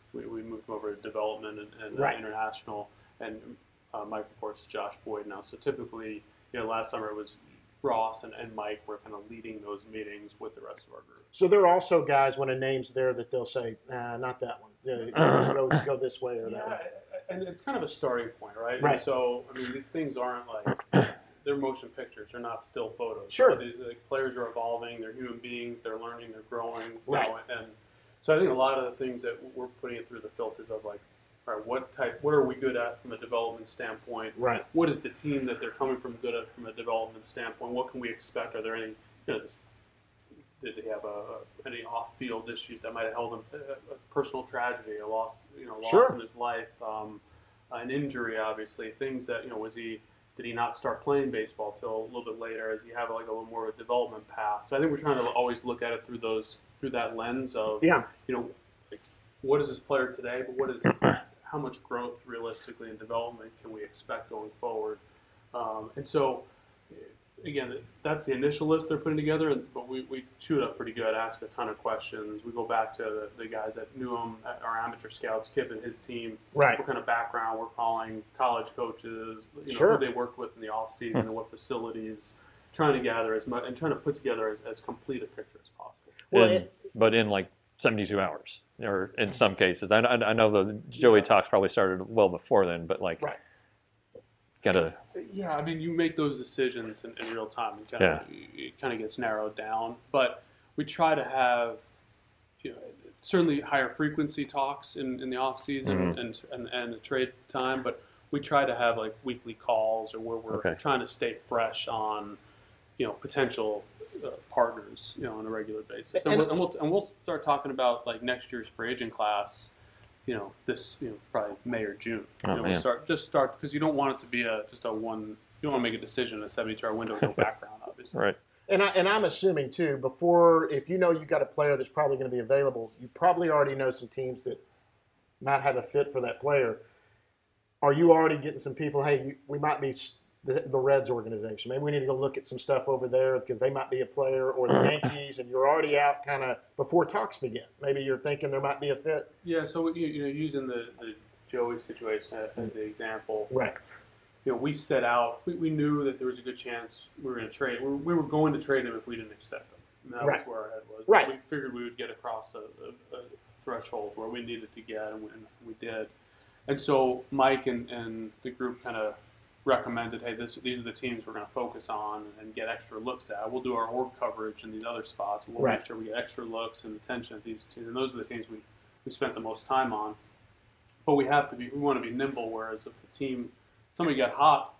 we moved him over to development and Right. international, and Mike reports to Josh Boyd now. So typically, last summer it was Ross and Mike were kind of leading those meetings with the rest of our group. So there are also guys when a name's there that they'll say, nah, not that one. Go this way or that way. And it's kind of a starting point, right? Right. And so, I mean, these things aren't like, they're motion pictures. They're not still photos. Sure. The players are evolving. They're human beings. They're learning. They're growing. Right. And so I think a lot of the things that we're putting it through the filters of like, all right, what are we good at from a development standpoint? Right. What is the team that they're coming from good at from a development standpoint? What can we expect? Are there any, did they have any off-field issues that might have held him a personal tragedy, a loss, Sure. loss in his life, an injury, obviously, things that did he not start playing baseball till a little bit later? Does he have like a little more of a development path? So I think we're trying to always look at it through that lens of like, what is this player today, but what is how much growth realistically and development can we expect going forward? And so. Again, that's the initial list they're putting together, but we chew it up pretty good, ask a ton of questions. We go back to the guys that knew him, our amateur scouts, Kip and his team. Right. What kind of background we're calling, college coaches, Sure. who they worked with in the offseason and what facilities, trying to gather as much and trying to put together as complete a picture as possible. Well, but in like 72 hours, or in some cases. I know the Joey talks probably started well before then, but like, Right. gotta. Yeah, I mean, you make those decisions in real time. It kind of gets narrowed down, but we try to have, certainly higher frequency talks in the off season and the trade time, but we try to have like weekly calls or where we're trying to stay fresh on, potential partners, on a regular basis, and we'll start talking about like next year's free agent class. This, probably May or June. We'll start because you don't want it to be just a one. You don't want to make a decision in a 72-hour window with no background, obviously. Right. And I'm assuming too, before, if you got a player that's probably going to be available, you probably already know some teams that might have a fit for that player. Are you already getting some people? Hey, we might be the Reds organization. Maybe we need to go look at some stuff over there because they might be a player, or the Yankees, and you're already out kind of before talks begin. Maybe you're thinking there might be a fit. Yeah. So using the Joey situation as the example, Right. We set out. We knew that there was a good chance we were going to trade. We were going to trade him if we didn't accept him. And that was where our head was. Right. We figured we would get across a threshold where we needed to get, and we did. And so Mike and the group kind of recommended, hey, these are the teams we're going to focus on and get extra looks at. We'll do our org coverage in these other spots. We'll make sure we get extra looks and attention at these teams. And those are the teams we spent the most time on. But we want to be nimble, whereas if the team, somebody got hot,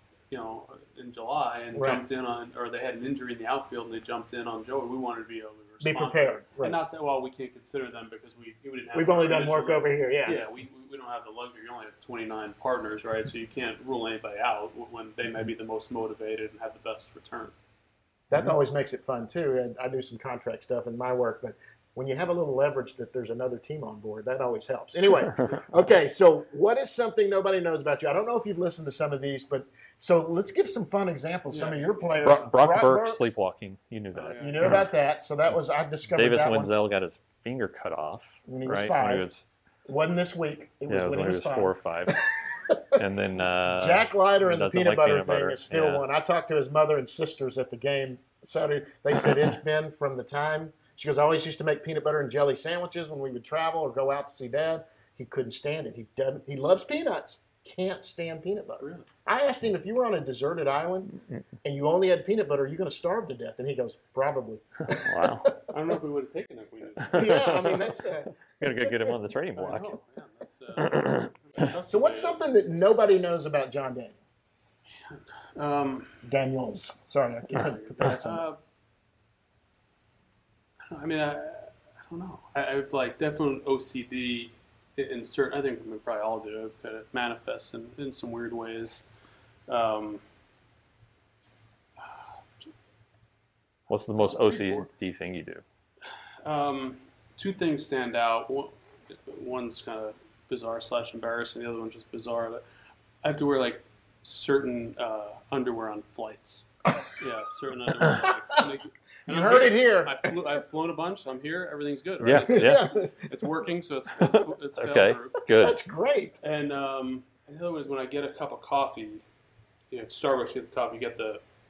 in July and jumped in on, or they had an injury in the outfield and they jumped in on Joey, we wanted to be able to respond. Be prepared. Right. And not say, well, we can't consider them because we didn't have. We've only done work over here, yeah. Yeah, we don't have the luxury. You only have 29 partners, right? So you can't rule anybody out when they may be the most motivated and have the best return. That always makes it fun, too. And I do some contract stuff in my work, but when you have a little leverage that there's another team on board, that always helps. Anyway, okay, so what is something nobody knows about you? I don't know if you've listened to some of these, but so let's give some fun examples. Some of your players. Brock Burke sleepwalking. You knew that. You knew about that. So that was, I discovered Davis that Wenzel got his finger cut off. When he was right? 5. When he was, wasn't this week. It was when he was 5. 4 or 5. And then Jack Leiter and the peanut butter thing is still yeah. one. I talked to his mother and sisters at the game Saturday. They said it's been from the time. She goes, I always used to make peanut butter and jelly sandwiches when we would travel or go out to see Dad. He couldn't stand it. He loves peanuts. Can't stand peanut butter. Really? I asked him, if you were on a deserted island and you only had peanut butter, are you going to starve to death? And he goes, probably. Wow. I don't know if we would have taken it if we knew. Yeah, I mean, that's Got to go get him on the trading I block. know, that's, So what's something that nobody knows about John Daniels? Um, Daniels. Sorry, I can't put that on. I mean, I don't know. I've like definitely OCD in certain. I think we probably all do. It kind of manifests in some weird ways. What's the most OCD thing you do? Two things stand out. One's kind of bizarre / embarrassing. The other one's just bizarre. But I have to wear like certain underwear on flights. Yeah, certain I don't like. You heard it here. I've flown a bunch. So I'm here. Everything's good. Yeah, Right? yeah. It's working, so it's Okay, fail-proof. good. That's great. And the other one is when I get a cup of coffee, at Starbucks, you get the coffee, you get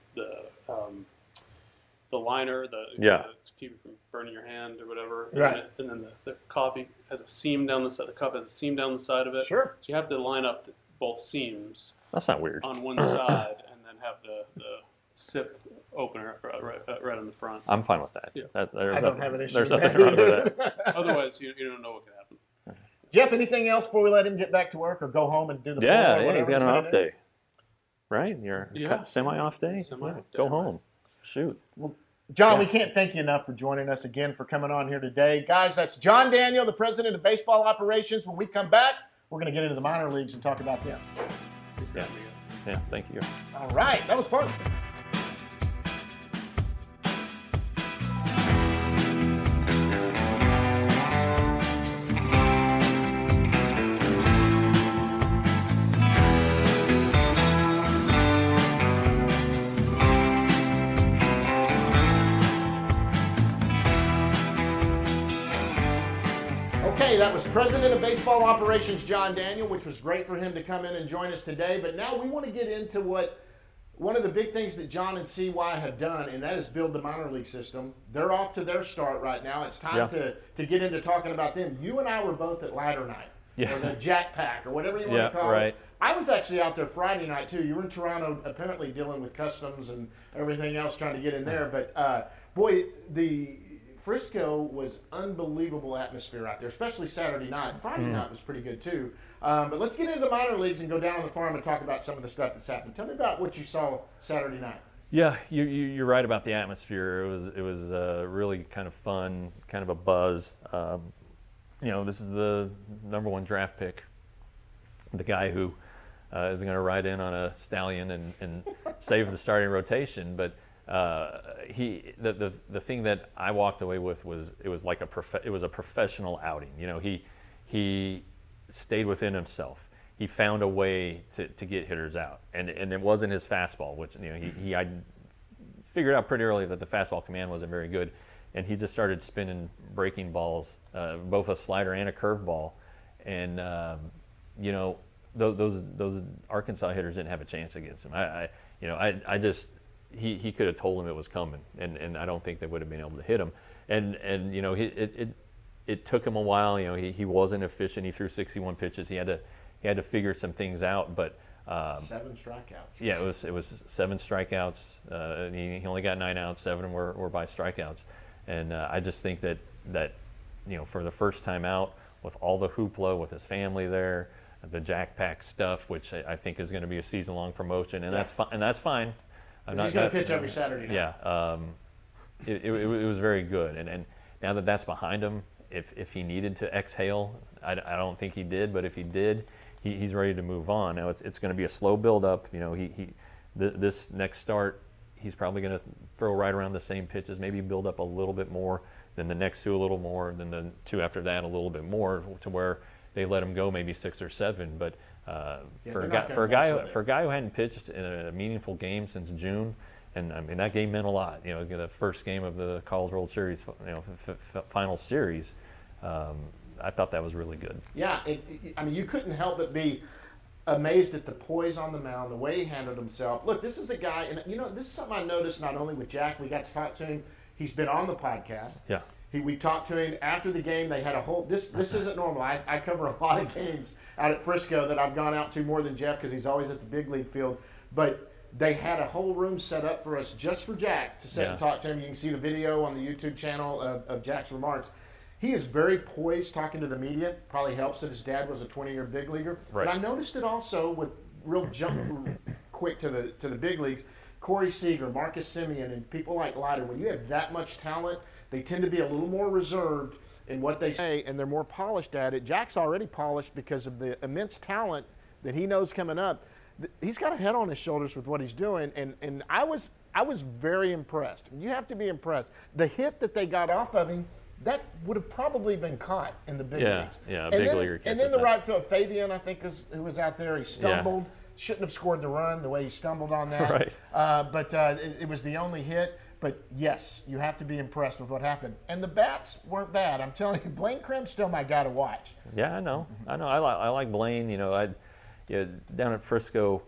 the liner, to keep it from burning your hand or whatever. Right. And then the coffee has a seam down the side. The cup has a seam down the side of it. Sure. So you have to line up both seams That's not weird. on one side, and then have the sip opener right on the front. I'm fine with that. Yeah. I don't have an issue There's with nothing that wrong with that. Otherwise, you don't know what could happen. Jeff, anything else before we let him get back to work or go home and do the Yeah, poll or yeah, he's whatever got an gonna off do? day. Right? You're Yeah. semi-off day? Semi-off Yeah, day, go right. home. Shoot. John, Yeah. we can't thank you enough for joining us again, for coming on here today. Guys, that's John Daniel, the president of baseball operations. When we come back, we're going to get into the minor leagues and talk about them. Yeah. Yeah, thank you. All right, that was fun. Okay, that was President of Baseball Operations John Daniel, which was great for him to come in and join us today. But now we want to get into one of the big things that John and CY have done, and that is build the minor league system. They're off to their start right now. It's time to get into talking about them. You and I were both at Ladder Night, or the Jack Pack, or whatever you want to call it. I was actually out there Friday night, too. You were in Toronto, apparently dealing with customs and everything else, trying to get in there. But, boy, the Frisco was unbelievable atmosphere out there, especially Saturday night. Friday night was pretty good, too. But let's get into the minor leagues and go down on the farm and talk about some of the stuff that's happened. Tell me about what you saw Saturday night. Yeah, you're right about the atmosphere. It was really kind of fun, kind of a buzz. This is the #1 draft pick, the guy who is going to ride in on a stallion and save the starting rotation. But the thing that I walked away with was it was like it was a professional outing. He stayed within himself. He found a way to get hitters out, and it wasn't his fastball, which I figured out pretty early that the fastball command wasn't very good, and he just started spinning breaking balls, both a slider and a curveball, and those Arkansas hitters didn't have a chance against him. He could have told him it was coming, and I don't think they would have been able to hit him, and it took him a while. He wasn't efficient. He threw 61 pitches. He had to figure some things out, but 7 strikeouts. Yeah, it was 7 strikeouts. And he only got 9 outs. 7 were by strikeouts, and I just think that for the first time out, with all the hoopla with his family there, the Jack Pack stuff, which I think is going to be a season-long promotion, and that's fine. And that's fine. He's going to pitch every Saturday night. Yeah, it was very good, and now that that's behind him, if he needed to exhale, I don't think he did, but if he did, he's ready to move on. Now it's going to be a slow build-up. This next start, he's probably going to throw right around the same pitches, maybe build up a little bit more, then the next 2 a little more, then the 2 after that a little bit more, to where they let him go maybe 6 or 7. But for a guy who hadn't pitched in a meaningful game since June, and I mean that game meant a lot. The first game of the College World Series, final series. I thought that was really good. Yeah, you couldn't help but be amazed at the poise on the mound, the way he handled himself. Look, this is a guy, and this is something I noticed not only with Jack. We got to talk to him. He's been on the podcast. Yeah. We talked to him after the game. They had a whole. This isn't normal. I cover a lot of games out at Frisco that I've gone out to more than Jeff because he's always at the big league field. But they had a whole room set up for us just for Jack to sit and talk to him. You can see the video on the YouTube channel of Jack's remarks. He is very poised talking to the media. Probably helps that his dad was a 20-year big leaguer. Right. But I noticed it also with real jump quick to the big leagues. Corey Seager, Marcus Semien, and people like Leiter. When you have that much talent, they tend to be a little more reserved in what they say, and they're more polished at it. Jack's already polished because of the immense talent that he knows coming up. He's got a head on his shoulders with what he's doing, and I was very impressed. You have to be impressed. The hit that they got off of him, that would have probably been caught in the big leagues. Yeah, big leaguer. And then the right field, Fabian, I think, who was out there. He stumbled. Shouldn't have scored the run the way he stumbled on that. Right. But it was the only hit. But yes, you have to be impressed with what happened. And the bats weren't bad. I'm telling you, Blaine Crimm's still my guy to watch. Yeah, I know. I like Blaine. Down at Frisco,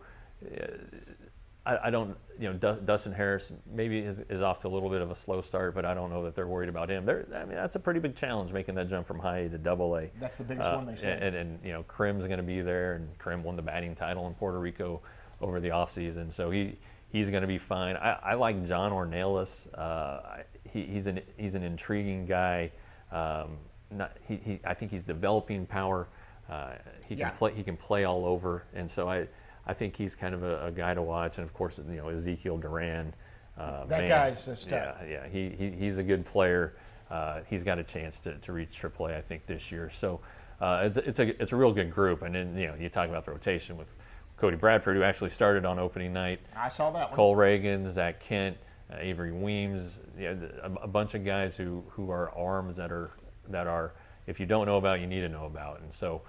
I don't. Dustin Harris maybe is off to a little bit of a slow start, but I don't know that they're worried about him. That's a pretty big challenge making that jump from high A to Double A. That's the biggest one they said. And Crimm's going to be there, and Crimm won the batting title in Puerto Rico over the offseason, so he's going to be fine. I like John Ornelas. He's an intriguing guy. I think he's developing power. He can play all over, and so I think he's kind of a guy to watch. And of course, Ezekiel Duran. That guy's a stud. Yeah. He's a good player. He's got a chance to reach AAA, I think, this year. So it's a real good group. And then you talk about the rotation with Cody Bradford, who actually started on opening night. I saw that one. Cole Reagan, Zach Kent, Avery Weems, a bunch of guys who are arms that are if you don't know about, you need to know about. And so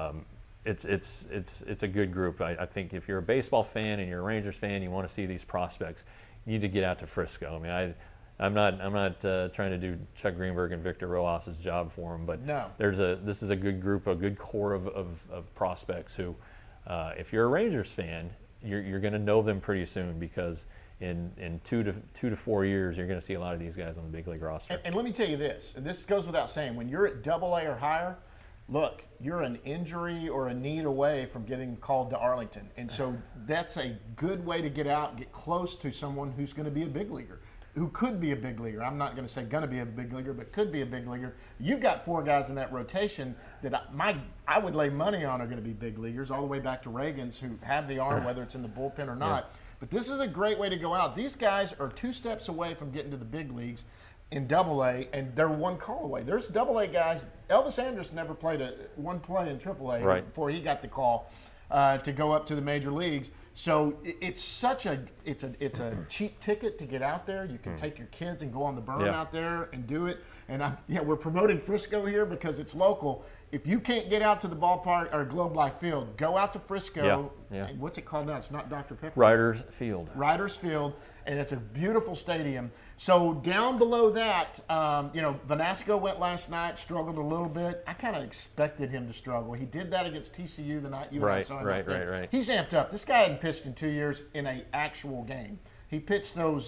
it's a good group. I think if you're a baseball fan and you're a Rangers fan, you want to see these prospects, you need to get out to Frisco. I mean, I'm not trying to do Chuck Greenberg and Victor Roas's job for him, but no. This is a good group, a good core of prospects who, if you're a Rangers fan, you're going to know them pretty soon, because in 2 to 4 years, you're going to see a lot of these guys on the big league roster. And let me tell you this, and this goes without saying, when you're at Double A or higher, look, you're an injury or a need away from getting called to Arlington. And so that's a good way to get out and get close to someone who's going to be a big leaguer, who could be a big leaguer. I'm not going to say going to be a big leaguer, but could be a big leaguer. You've got 4 guys in that rotation that I would lay money on are going to be big leaguers, all the way back to Reagan's, who have the arm, whether it's in the bullpen or not. Yeah. But this is a great way to go out. These guys are 2 steps away from getting to the big leagues in Double A, and they're 1 call away. There's Double A guys. Elvis Andrus never played one play in Triple A before he got the call to go up to the major leagues. So it's a cheap ticket to get out there. You can take your kids and go on the burn out there and do it. And we're promoting Frisco here because it's local. If you can't get out to the ballpark or Globe Life Field, go out to Frisco. Yeah. What's it called now? It's not Dr. Pepper. Riders Field, and it's a beautiful stadium. So down below that, Vanasco went last night, struggled a little bit. I kind of expected him to struggle. He did that against TCU the night you and I saw him. Right. He's amped up. This guy hadn't pitched in 2 years in an actual game. He pitched those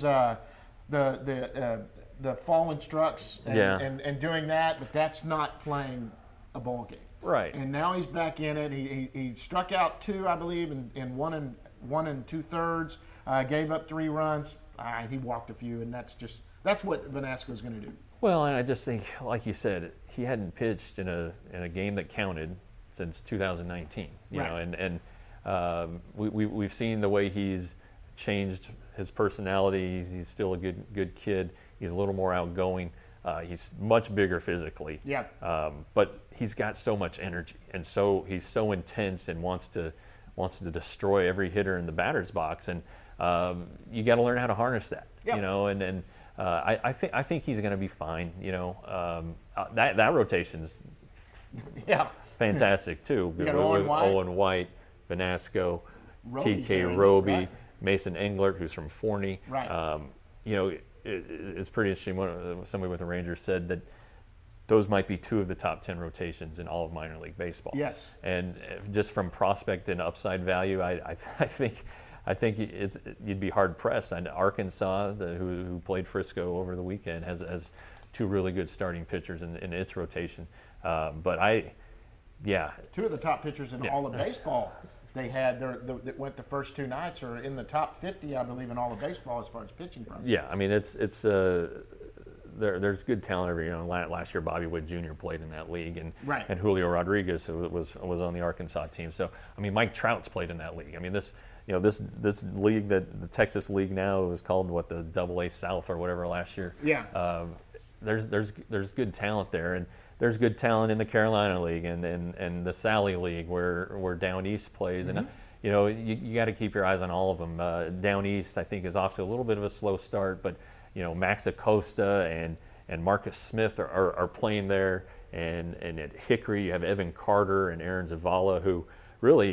the fallen strucks and doing that, but that's not playing a ball game. Right. And now he's back in it. He struck out 2, I believe, in 1 2/3. Gave up 3 runs. He walked a few, and that's what Vanasco's going to do. Well, and I just think, like you said, he hadn't pitched in a game that counted since 2019. You know, and we've seen the way he's changed his personality. He's still a good kid. He's a little more outgoing. He's much bigger physically. Yeah. But he's got so much energy, and so he's so intense and wants to destroy every hitter in the batter's box. And you got to learn how to harness that. Yep. And I think he's going to be fine. That rotation's fantastic too. With Owen White, Vanasco, TK Roby, Mason Englert, who's from Forney. Right. It's pretty interesting. Somebody with the Rangers said that those might be 2 of the top 10 rotations in all of minor league baseball. Yes. And just from prospect and upside value, I think you'd be hard pressed. And Arkansas, who played Frisco over the weekend, has 2 really good starting pitchers in its rotation. 2 of the top pitchers in all of baseball. They had that went the first 2 nights are in the top 50, I believe, in all of baseball as far as pitching prospects. Yeah, I mean it's there's good talent every. Last year Bobby Witt Jr. played in that league, and Julio Rodriguez was on the Arkansas team. So I mean Mike Trout's played in that league. I mean this league, that the Texas League now, was called the Double A South or whatever last year. Yeah. There's good talent there, and there's good talent in the Carolina League and the Sally League where Down East plays. And you got to keep your eyes on all of them. Down East, I think, is off to a little bit of a slow start, but Max Acosta and Marcus Smith are playing there, and at Hickory you have Evan Carter and Aaron Zavala, who really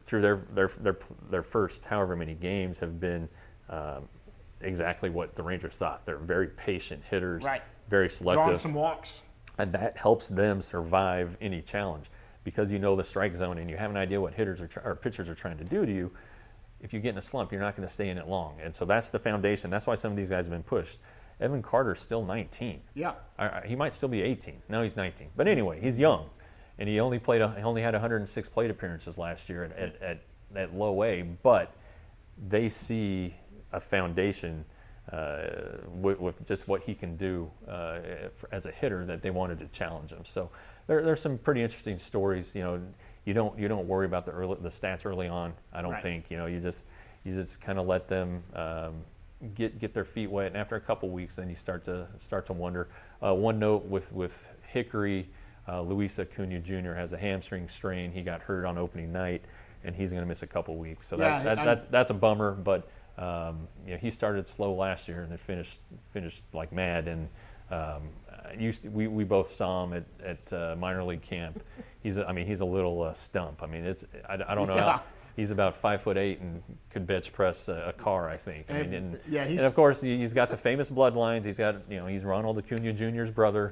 through their first however many games have been exactly what the Rangers thought. They're very patient hitters, right. very selective. Drawing some walks. And that helps them survive any challenge because you know the strike zone and you have an idea what hitters or pitchers are trying to do to you. If you get in a slump, you're not going to stay in it long. And so that's the foundation. That's why some of these guys have been pushed. Evan Carter's still 19. Yeah. He might still be 18. No, he's 19. But anyway, he's young. And he only had 106 plate appearances last year at low A. But they see a foundation with just what he can do as a hitter that they wanted to challenge him. So there's some pretty interesting stories. You know, you don't worry about the stats early on. I don't think. You know, you just kind of let them get their feet wet, and after a couple weeks, then you start to wonder. One note with Hickory, Luis Acuna Jr. has a hamstring strain. He got hurt on opening night, and he's going to miss a couple weeks. So that's a bummer, but. You know, he started slow last year and then finished like mad. And we both saw him at minor league camp. He's a little stump. I mean, I don't know how. He's about 5'8" and could bench press a car, I think. And of course he's got the famous bloodlines. He's Ronald Acuna Jr.'s brother.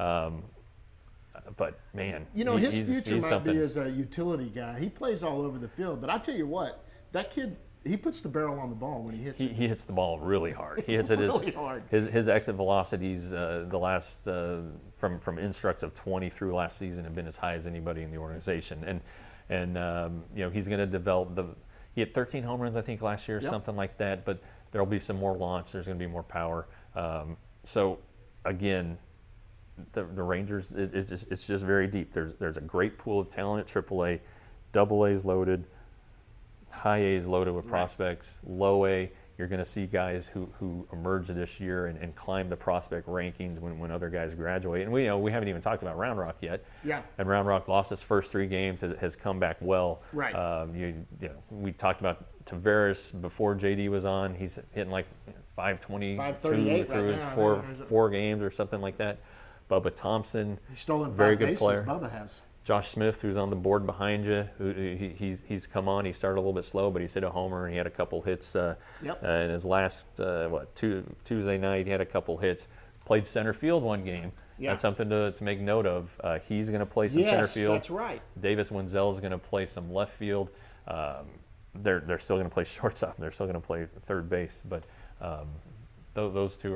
But man, his future might be as a utility guy. He plays all over the field. But I tell you what, that kid. He puts the barrel on the ball when he hits it. He hits the ball really hard. He hits it really hard. His exit velocities the last from instructs of 20 through last season have been as high as anybody in the organization. And he's going to develop he had 13 home runs I think last year, something like that. But there'll be some more launch. There's going to be more power. So again, the Rangers it's just very deep. There's a great pool of talent at AAA, AA loaded. High A is loaded with prospects. Low A, you're going to see guys who emerge this year and climb the prospect rankings when other guys graduate. And we haven't even talked about Round Rock yet. Yeah. And Round Rock lost his first 3 games, has come back well. Right. We talked about Tavares before JD was on. He's hitting like 522 through his four games or something like that. Bubba Thompson, he's stolen very 5 good bases, player. Bubba has. Josh Smith, who's on the board behind you, he's come on. He started a little bit slow, but he's hit a homer and he had a couple hits in his last Tuesday night. He had a couple hits. Played center field one game. Yeah. That's something to make note of. He's going to play some center field. That's right. Davis Wenzel is going to play some left field. They're still going to play shortstop. They're still going to play third base. But those two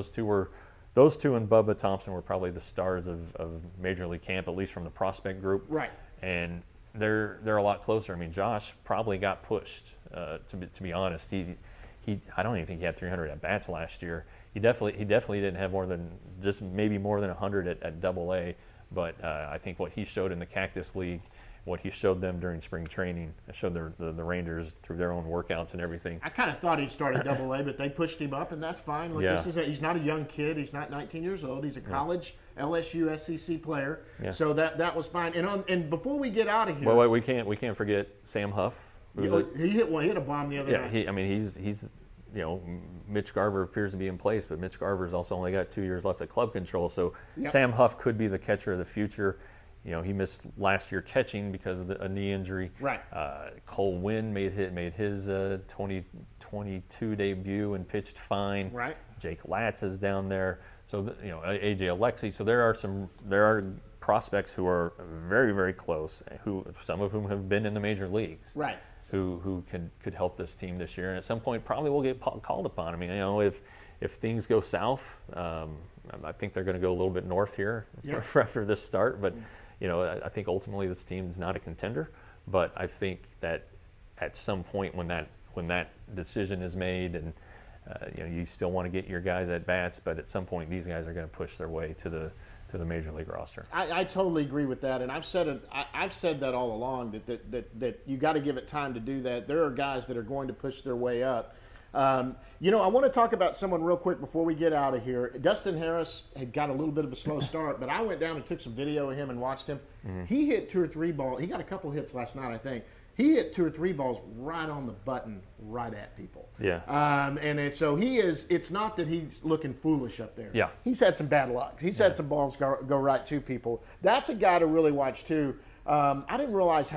and Bubba Thompson were probably the stars of Major League camp, at least from the prospect group. Right. And they're a lot closer. I mean, Josh probably got pushed. To be honest, he I don't even think he had 300 at bats last year. He definitely didn't have maybe more than 100 at AA. But I think what he showed in the Cactus League, what he showed them during spring training, showed the Rangers through their own workouts and everything. I kind of thought he'd start at AA, but they pushed him up, and that's fine. Look, he's not a young kid. He's not 19 years old. He's a college LSU SEC player. Yeah. So that was fine. And before we get out of here, well, we can't forget Sam Huff. He hit a bomb the other night. He's Mitch Garver appears to be in place, but Mitch Garver's also only got 2 years left at club control. So Sam Huff could be the catcher of the future. He missed last year catching because of a knee injury. Right. Cole Winn made his 2022 debut and pitched fine. Right. Jake Latz is down there. So AJ Alexi. So there are prospects who are very, very close. Some of whom have been in the major leagues. Right. Who could help this team this year, and at some point probably will get called upon. I mean, if things go south, I think they're going to go a little bit north here for after this start, but. I think ultimately this team's not a contender, but I think that at some point when that decision is made, and you still want to get your guys at bats, but at some point these guys are going to push their way to the major league roster. I totally agree with that, and I've said that all along that you got to give it time to do that. There are guys that are going to push their way up. I want to talk about someone real quick before we get out of here. Dustin Harris had got a little bit of a slow start, but I went down and took some video of him and watched him. Mm-hmm. He hit 2 or 3 balls. He got a couple hits last night, I think. He hit 2 or 3 balls right on the button, right at people. Yeah. So he is. It's not that he's looking foolish up there. Yeah. He's had some bad luck. He's had some balls go right to people. That's a guy to really watch too. I didn't realize how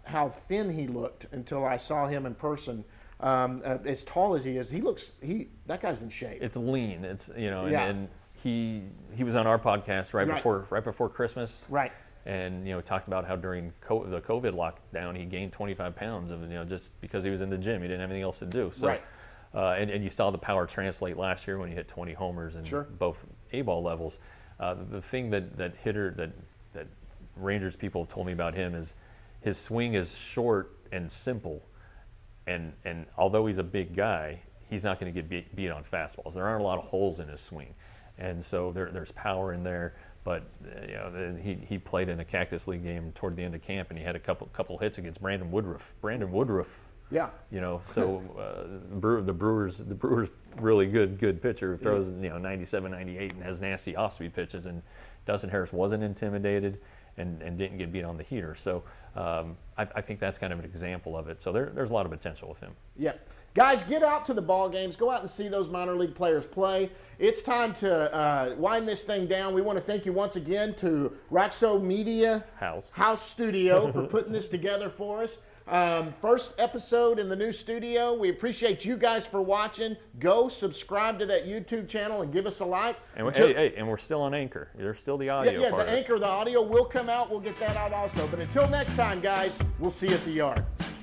how thin he looked until I saw him in person. As tall as he is, that guy's in shape. It's lean. It's Yeah. and he was on our podcast right before Christmas. Right. And talked about how during the COVID lockdown he gained 25 pounds of just because he was in the gym. He didn't have anything else to do. So, right. And you saw the power translate last year when he hit 20 homers in both A-ball levels. The thing that Rangers people have told me about him is his swing is short and simple, and although he's a big guy, he's not going to get beat on fastballs. There aren't a lot of holes in his swing, and so there's power in there. But he played in a Cactus League game toward the end of camp, and he had a couple hits against Brandon Woodruff. Yeah. So the Brewers really good pitcher who throws 97, 98 and has nasty off-speed pitches, and Dustin Harris wasn't intimidated and didn't get beat on the heater. So I think that's kind of an example of it. So there's a lot of potential with him. Yeah. Guys, get out to the ball games. Go out and see those minor league players play. It's time to wind this thing down. We want to thank you once again to Raxo Media House Studio for putting this together for us. First episode in the new studio. We appreciate you guys for watching. Go subscribe to that YouTube channel and give us a like. And and we're still on Anchor. There's still the audio part. The Anchor, the audio will come out. We'll get that out also. But until next time, guys, we'll see you at the yard.